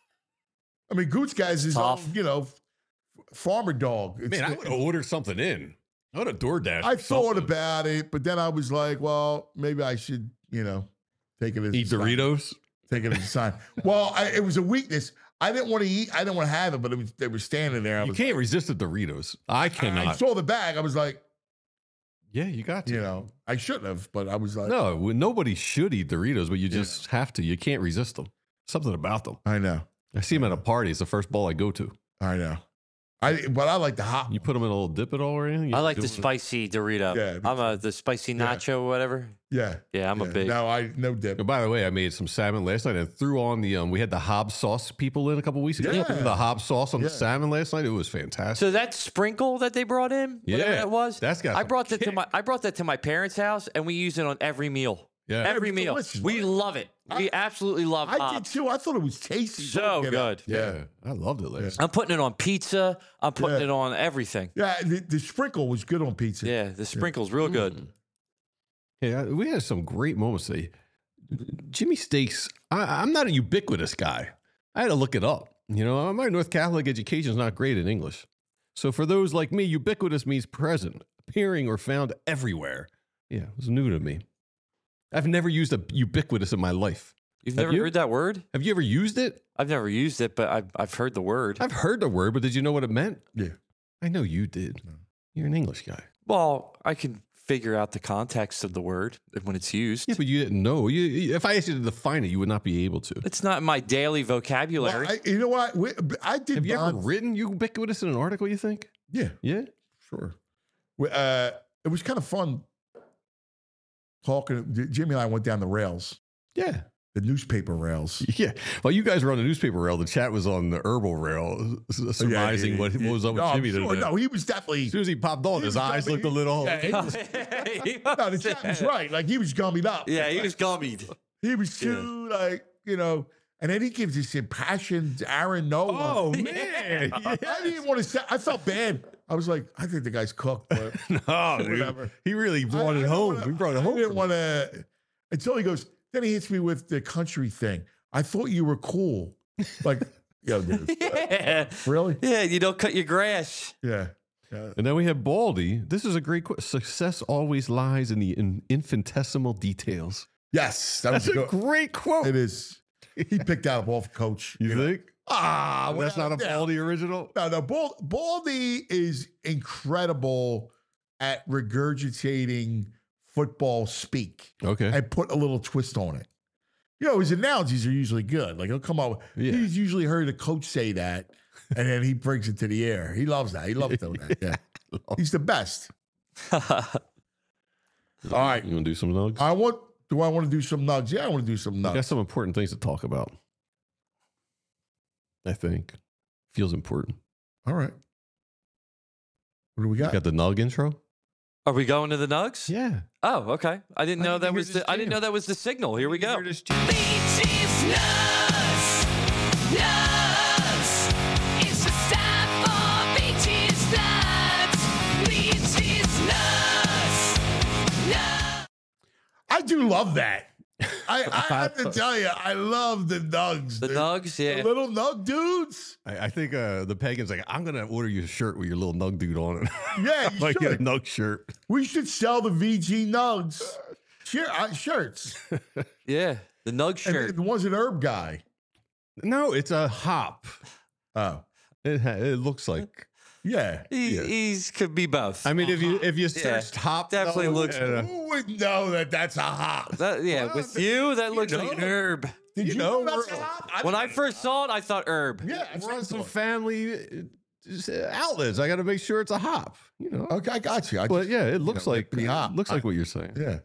I mean, Goots guys is own, farmer dog. Man, I would order something in. I would have DoorDash. I thought about it, but then I was like, well, maybe I should, take it as eat Doritos. Take it as a sign. Well, it was a weakness. I didn't want to eat. I didn't want to have it, but they were standing there. You can't resist the Doritos. I cannot. I saw the bag. I was like, yeah, you got to. I shouldn't have, but I was like, no, nobody should eat Doritos, but you just have to. You can't resist them. Something about them. I know. I see them at a party. It's the first ball I go to. I know. But I like the hot. You put them in a little dip at all or anything? I like the spicy Dorito. Yeah, I'm the spicy nacho or whatever. Yeah. Yeah, I'm a big. No dip. By the way, I made some salmon last night and threw on the, we had the Hobbs sauce people in a couple weeks ago. Yeah. The Hobbs sauce on the salmon last night. It was fantastic. So that sprinkle that they brought in, whatever that was, that's got I brought that to my parents' house and we use it on every meal. Yeah. Every meal. Delicious. We love it. We absolutely love I Hobbs. did too. I thought it was tasty. So good. Yeah. I loved it last night. I'm putting it on pizza. I'm putting it on everything. Yeah, the sprinkle was good on pizza. Yeah, the sprinkle's real good. Yeah, we had some great moments today. Jimmy Steaks, I'm not a ubiquitous guy. I had to look it up. My North Catholic education is not great in English. So for those like me, ubiquitous means present, appearing, or found everywhere. Yeah, it was new to me. I've never used a ubiquitous in my life. You've never heard that word? Have you ever used it? I've never used it, but I've heard the word. I've heard the word, but did you know what it meant? Yeah. I know you did. You're an English guy. Well, I can figure out the context of the word when it's used. Yeah, but you didn't know. If I asked you to define it, you would not be able to. It's not in my daily vocabulary. Well, you know what? I did. Have you ever written ubiquitous in an article, you think? Yeah. Yeah? Sure. It was kind of fun talking. Jimmy and I went down the rails. Yeah. The newspaper rails. Yeah. While you guys were on the newspaper rail, the chat was on the herbal rail, surmising what was up with Jimmy today. No, he was definitely. As soon as he popped on, his eyes looked a little. No, the chat was right. Like he was gummied up. Yeah, he was gummied. He was too and then he gives this impassioned Aaron Nola. Oh man! I didn't even want to say. I felt bad. I was like, I think the guy's cooked. But no, dude. He really brought it home. He brought it home. I didn't want to until he goes. Then he hits me with the country thing. I thought you were cool. Like, yo, dude. Yeah. Really? Yeah, you don't cut your grass. Yeah. And then we have Baldy. This is a great quote. Success always lies in the infinitesimal details. Yes. That's a great quote. It is. He picked that up off coach. You think? That's not a Baldy original? No. Baldy is incredible at regurgitating football speak. Okay. And put a little twist on it. His analogies are usually good. Like he'll come up. He's usually heard a coach say that, and then he brings it to the air. He loves that. He loves doing that. Yeah. He's the best. All right. You want to do some nugs? Do I want to do some nugs? Yeah, I want to do some nugs. I got some important things to talk about. I think. Feels important. All right. What do we got? Got the Nug intro. Are we going to the Nugs? Yeah. Oh, okay. I didn't know that was the. I didn't know that was the signal. Here we go. Beaches nuts, nuts. It's a stop for beaches nuts, beaches nuts, nuts. I do love that. I have to tell you, I love the Nugs. The dude. Nugs, yeah. The little Nug dudes. I think the Pagan's like, I'm gonna order you a shirt with your little Nug dude on it. Yeah, you like should. a Nug shirt. We should sell the VG Nugs shirts. Yeah, the Nug shirt. And it was an herb guy. No, it's a hop. Oh, it looks like. Yeah, He's could be both. I mean, if you searched hop, definitely looks. who would know that that's a hop? Yeah, with you, that looks like an herb. Did you know that's a hop? When I first saw it, I thought herb. Yeah, we're on some family outlets. I got to make sure it's a hop. You know. Okay, I got you. But yeah, it looks like the hop. Looks like what you're saying. Yeah.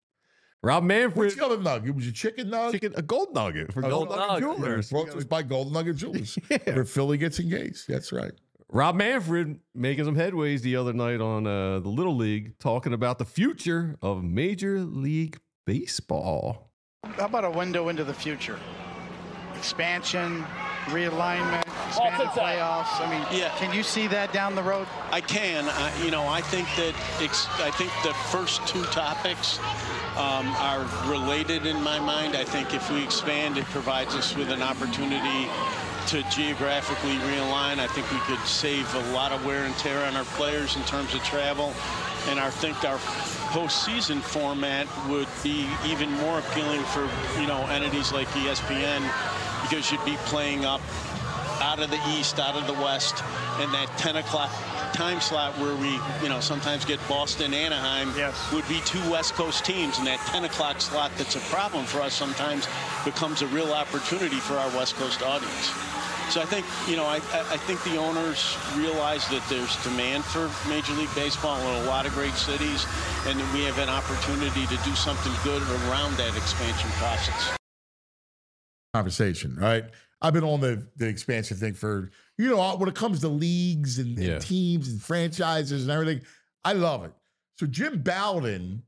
Rob Manfred. What's the other nug? It was a chicken nug? A gold nugget for Gold Nugget Jewelers. Brought to us by Gold Nugget Jewelers. Where Philly gets engaged. That's right. Rob Manfred making some headways the other night on the Little League, talking about the future of Major League Baseball. How about a window into the future? Expansion, realignment, expanded playoffs. I mean, can you see that down the road? I can. I think that the first two topics are related in my mind. I think if we expand, it provides us with an opportunity to geographically realign. I think we could save a lot of wear and tear on our players in terms of travel. And I think our postseason format would be even more appealing for, entities like ESPN, because you'd be playing up out of the East, out of the West, and that 10 o'clock time slot where we, sometimes get Boston, Anaheim, would be two West Coast teams. And that 10 o'clock slot that's a problem for us sometimes becomes a real opportunity for our West Coast audience. So I think, I think the owners realize that there's demand for Major League Baseball in a lot of great cities, and that we have an opportunity to do something good around that expansion process. Conversation, right? I've been on the expansion thing for, when it comes to leagues and teams and franchises and everything, I love it. So Jim Bowden,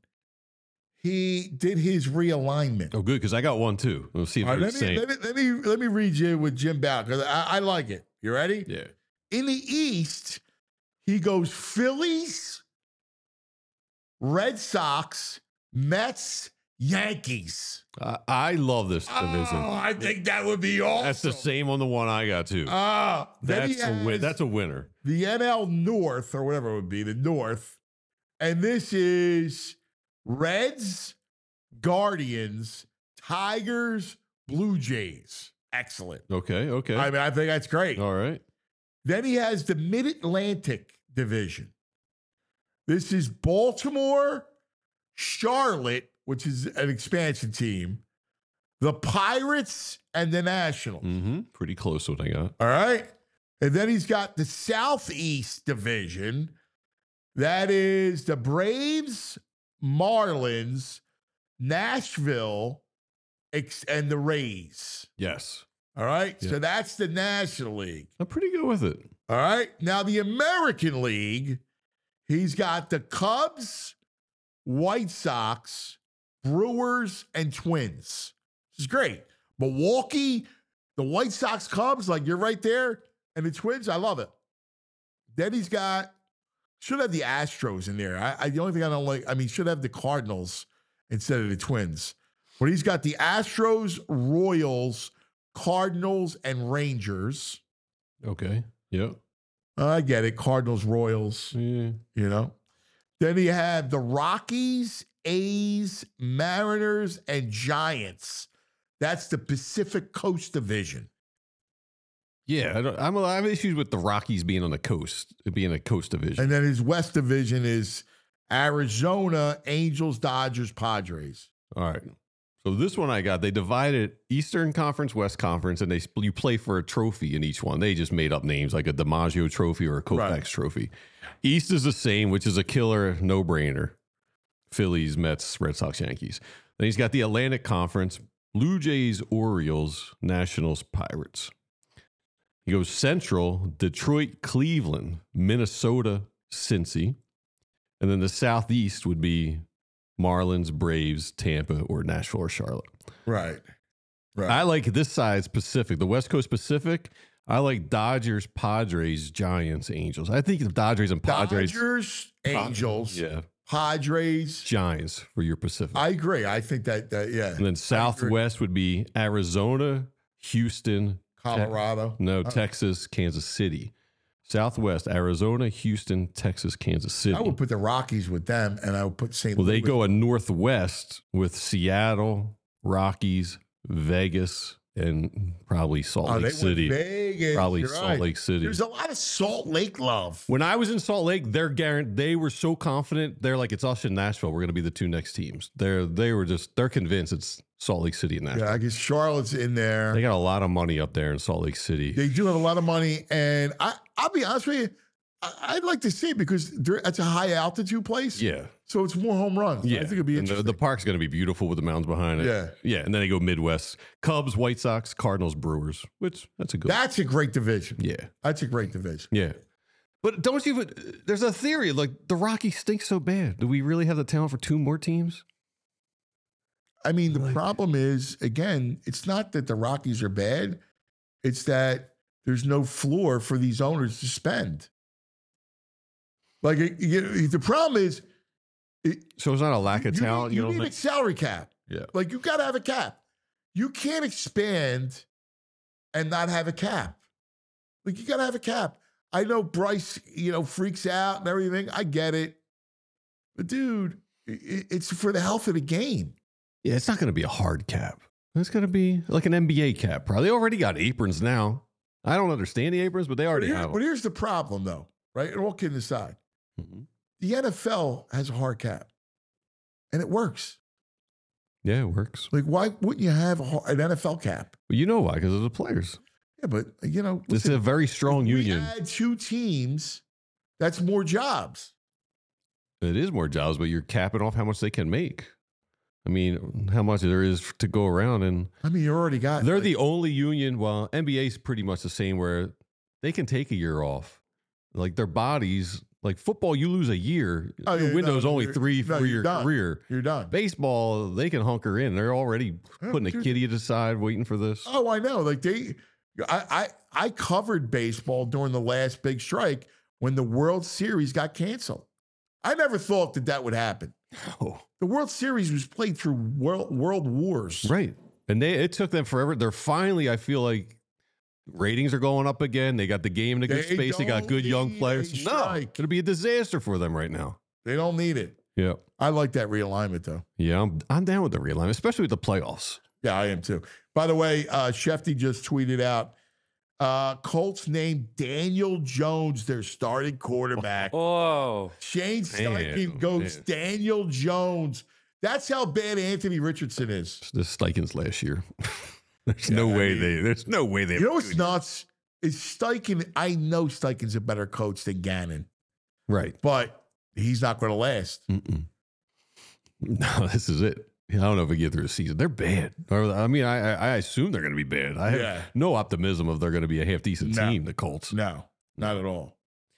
he did his realignment. Oh, good, because I got one too. We'll see if they're the same. Let me read you with Jim Bowden, because I like it. You ready? Yeah. In the East, he goes Phillies, Red Sox, Mets, Yankees. I love this division. Oh, I think that would be awesome. That's the same on the one I got too. That's a winner. The NL North, or whatever it would be, the North. And this is Reds, Guardians, Tigers, Blue Jays. Excellent. Okay. I mean, I think that's great. All right. Then he has the Mid-Atlantic division. This is Baltimore, Charlotte, which is an expansion team, the Pirates, and the Nationals. Mm-hmm. Pretty close to what I got. All right. And then he's got the Southeast division. That is the Braves, Marlins, Nashville, and the Rays. Yes. All right. Yeah. So that's the National League. I'm pretty good with it. All right. Now, the American League, he's got the Cubs, White Sox, Brewers, and Twins. This is great. Milwaukee, the White Sox, Cubs, like you're right there. And the Twins, I love it. Then he's got, should have the Astros in there. The only thing I don't like, should have the Cardinals instead of the Twins. But he's got the Astros, Royals, Cardinals, and Rangers. Okay. Yep. I get it. Cardinals, Royals, Yeah. Then you have the Rockies, A's, Mariners, and Giants. That's the Pacific Coast Division. Yeah. I have issues with the Rockies being on the coast, being a coast division. And then his West Division is Arizona, Angels, Dodgers, Padres. All right. So this one I got, they divided Eastern Conference, West Conference, and you play for a trophy in each one. They just made up names like a DiMaggio trophy or a Koufax trophy. East is the same, which is a killer no-brainer. Phillies, Mets, Red Sox, Yankees. Then he's got the Atlantic Conference, Blue Jays, Orioles, Nationals, Pirates. He goes Central, Detroit, Cleveland, Minnesota, Cincy. And then the Southeast would be Marlins, Braves, Tampa, or Nashville or Charlotte. Right. I like this side's Pacific. The West Coast Pacific, I like Dodgers, Padres, Giants, Angels. I think the Dodgers and Padres. Dodgers, Angels, yeah. Padres, Giants for your Pacific. I agree. I think that yeah. And then Southwest would be Arizona, Houston, Colorado. Texas, Kansas City. Southwest, Arizona, Houston, Texas, Kansas City. I would put the Rockies with them, and I would put St. Well, Louis. they go a Northwest with Seattle, Rockies, Vegas, and probably Salt Lake City. Vegas, probably Salt Lake City. There's a lot of Salt Lake love. When I was in Salt Lake, they were so confident. They're like, it's us and Nashville. We're going to be the two next teams. They're convinced it's Salt Lake City and Nashville. Yeah, I guess Charlotte's in there. They got a lot of money up there in Salt Lake City. They do have a lot of money, and I'll be honest with you, I'd like to see it because it's a high altitude place. Yeah. So it's more home runs. Yeah. I think it'd be interesting. The park's going to be beautiful with the mountains behind it. Yeah. Yeah. And then they go Midwest. Cubs, White Sox, Cardinals, Brewers, which that's a great division. Yeah. That's a great division. Yeah. But there's a theory, like the Rockies stink so bad. Do we really have the talent for two more teams? I mean, the problem is, again, it's not that the Rockies are bad. It's that there's no floor for these owners to spend. Like, the problem is... So it's not a lack of talent? You need a salary cap. Yeah. Like, you got to have a cap. You can't expand and not have a cap. Like, you got to have a cap. I know Bryce, freaks out and everything. I get it. But, dude, it's for the health of the game. Yeah, it's not going to be a hard cap. It's going to be like an NBA cap. Probably. They already got aprons now. I don't understand the aprons, but they already have them. But here's the problem, though, right? And all kidding aside, the NFL has a hard cap, and it works. Yeah, it works. Like, why wouldn't you have an NFL cap? Well, you know why? Because of the players. Yeah, but, It's a very strong union. We add two teams, that's more jobs. It is more jobs, but you're capping off how much they can make. I mean, how much there is to go around. And I mean, you already got... They're the only union. Well, NBA is pretty much the same where they can take a year off. Like their bodies, like football, you lose a year. Your window's only 3 for your career. You're done. Baseball, they can hunker in. They're already putting a kitty aside, waiting for this. Oh, I know. Like I covered baseball during the last big strike when the World Series got canceled. I never thought that would happen. Oh. The World Series was played through world wars. Right. And it took them forever. They're finally, I feel like, ratings are going up again. They got the game in a good space. They got good young players. No, it'll be a disaster for them right now. They don't need it. Yeah. I like that realignment, though. Yeah, I'm down with the realignment, especially with the playoffs. Yeah, I am too. By the way, Shefty just tweeted out, Colts named Daniel Jones their starting quarterback. Oh. Shane Steichen goes Daniel Jones. That's how bad Anthony Richardson is. This Steichen's last year. There's no way they. You know what's nuts is Steichen. I know Steichen's a better coach than Gannon, right? But he's not going to last. No, this is it. I don't know if we get through the season. They're bad. I mean, I assume they're going to be bad. I have no optimism of they're going to be a half decent team. The Colts. No, not at all.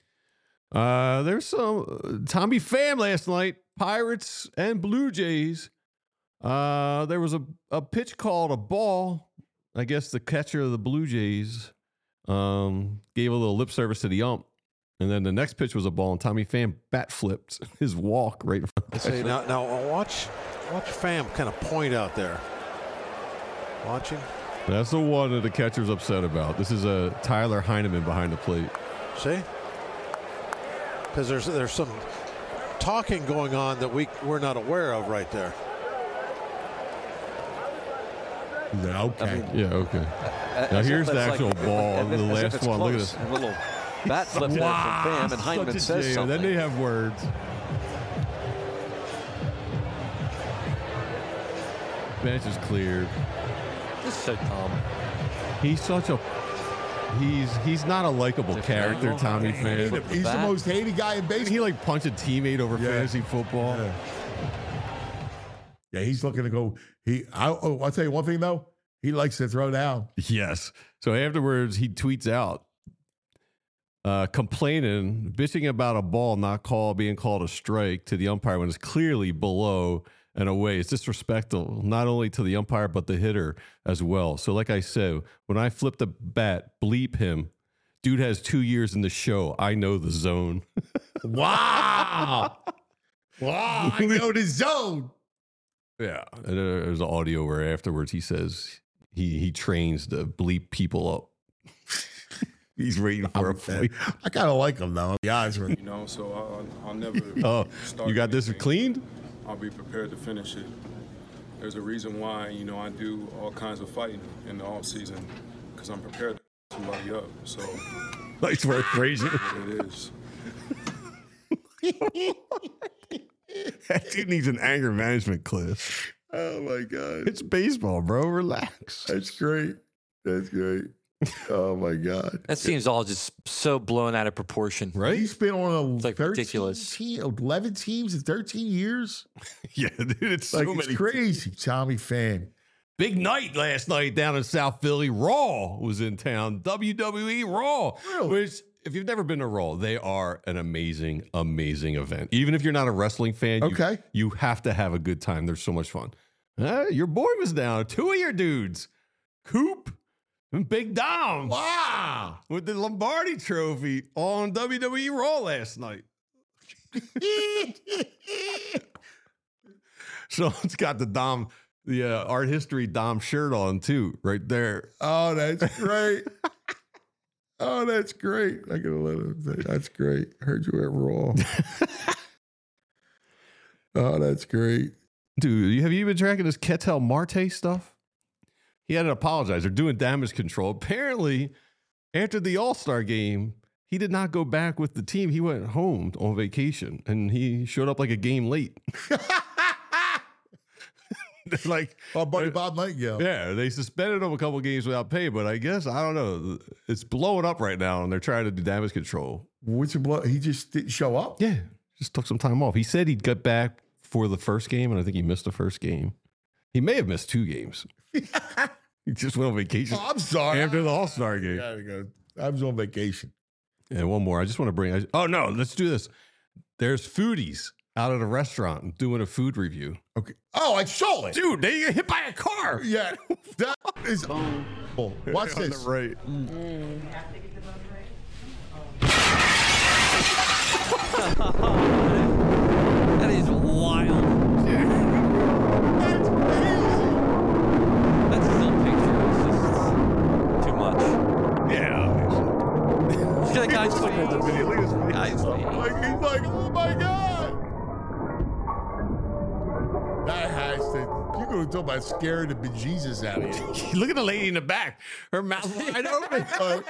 There's some Tommy Pham last night. Pirates and Blue Jays. There was a pitch called a ball. I guess the catcher of the Blue Jays gave a little lip service to the ump. And then the next pitch was a ball, and Tommy Pham bat flipped his walk right in front of the catcher. Now watch Pham kind of point out there. Watching. That's the one that the catcher's upset about. This is Tyler Heineman behind the plate. See? Because there's some talking going on that we're not aware of right there. Yeah, okay. Okay. Now here's the actual ball. The last one. Look at this. A little bat flip there from Pham, and Heineman says something. Then they have words. Bench is cleared. Just so Tom. He's such a. He's not a likable character, Tommy Pham. He's the most hated guy in baseball. He like punched a teammate over fantasy football. Yeah, he's looking to go. I'll tell you one thing though. He likes to throw down. Yes. So afterwards, he tweets out, complaining, bitching about a ball not being called a strike to the umpire when it's clearly below and away. It's disrespectful, not only to the umpire, but the hitter as well. So like I said, when I flip the bat, bleep him. Dude has 2 years in the show. I know the zone. Wow. Wow. I know the zone. Yeah. And there's an audio where afterwards he says he trains to bleep people up. He's waiting for a fight. I kind of like him, though. The eyes were. You know, so I'll never. Oh, start you got this anything. cleaned? I'll be prepared to finish it. There's a reason why, you know, I do all kinds of fighting in the off season because I'm prepared to somebody up. So. Nice work, Frazier. It is. That dude needs an anger management class. Oh, my God. It's baseball, bro. Relax. That's great. That's great. Oh, my God. That seems all just so blown out of proportion. Right? He's been on like ridiculous. 11 teams in 13 years. Yeah, dude, it's Like, so it's many. crazy. Tommy fan. Big night last night down in South Philly. Raw was in town. WWE Raw. Really? Which, if you've never been to Raw, they are an amazing, amazing event. Even if you're not a wrestling fan, Okay. you have to have a good time. They're so much fun. Your boy was down. 2 of your dudes, Coop and Big Dom. Wow. With the Lombardi Trophy on WWE Raw last night. So it's got the art history Dom shirt on too, right there. Oh, that's great. Oh, that's great. I gotta let him say that's great. I heard you at Raw. Oh, that's great. Dude, have you been tracking this Ketel Marte stuff? He had to apologize. They're doing damage control. Apparently, after the All-Star game, he did not go back with the team. He went home on vacation, and he showed up like a game late. Like our buddy Bob Nightingale. Yeah, they suspended him a couple games without pay, but I guess, I don't know, it's blowing up right now, and they're trying to do damage control. He just didn't show up? Yeah, just took some time off. He said he'd get back for the first game, and I think he missed the first game. He may have missed 2 games. He just went on vacation. Oh, I'm sorry. After the All-Star game. Gotta go. I was on vacation. And one more. I just want to bring... Oh, no. Let's do this. There's foodies out at a restaurant doing a food review. Okay. Oh, I saw it. Dude, they get hit by a car. Yeah. That is... Oh, watch On this. the right. That is wild. That's crazy. That's still a picture. It's just too much. Yeah. Look at that guy's face. Look at his face. Guy's face. Like, he's like, oh my God. That has to... You're going to talk about scaring the bejesus out of you. Look at the lady in the back. Her mouth wide open.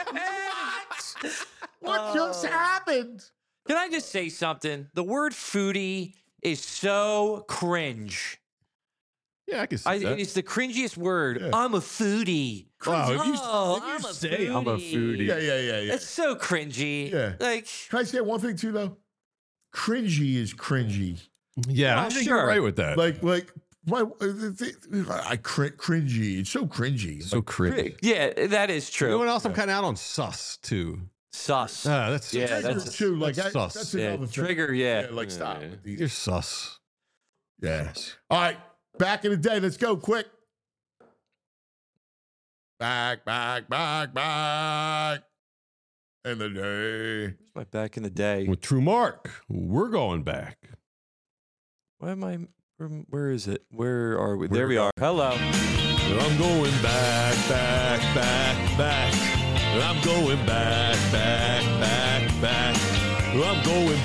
What just happened? Can I just say something? The word foodie is so cringe. Yeah, I can see that. It's the cringiest word. Yeah. I'm a foodie. Wow, if you I'm say I'm a foodie. Yeah. It's so cringy. Yeah. Like, Can I say one thing too, though? Cringy is cringy. Yeah, Oh, I think sure. you're right with that. Cringy. It's so cringy. So cringy. yeah, that is You know true. what else? I'm kind of out on sus, too. Sus. That's Yeah, Trigger, that's too. Like that's sus. that's Yeah, another thing. trigger, yeah. Like stop. with these. You're sus. Yes. All right. Back in the day. Let's go quick. Back in the day. My back in the day. With True Mark, we're going back. Why am I? Where is it? Where are we? There we are. Hello. I'm going back. I'm going back. I'm going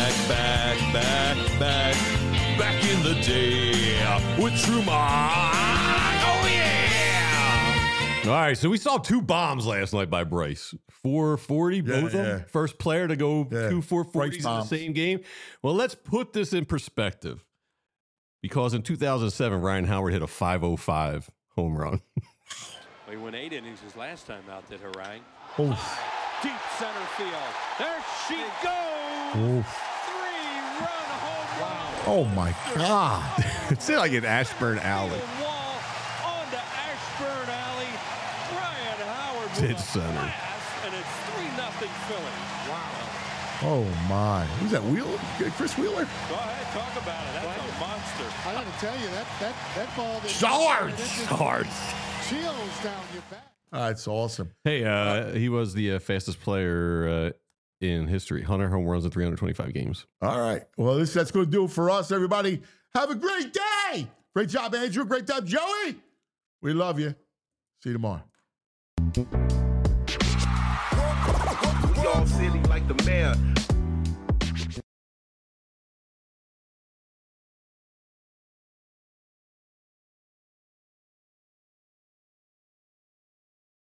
back in the day with True Mark. Oh yeah! All right, so we saw 2 bombs last night by Bryce. 440, both of them. First player to go 2 440s in the same game. Well, let's put this in perspective. Because in 2007, Ryan Howard hit a 505 home run. He went 8 innings his last time out, did Harang. Deep center field. There she goes. 3-run home run. Oh my God. It's like an Ashburn Alley. Wall onto Ashburn Alley. Ryan Howard Dead with a center. blast, and it's Boston Philly. Wow. Oh, my. Who's that, Wheeler? Chris Wheeler? Go ahead, talk about it. That's a monster. I got to tell you, that ball... Swords! Chills down your back. That's awesome. Hey, he was the fastest player in history. 100 home runs in 325 games. All right. Well, that's going to do it for us, everybody. Have a great day. Great job, Andrew. Great job, Joey. We love you. See you tomorrow. Y'all silly like the mayor.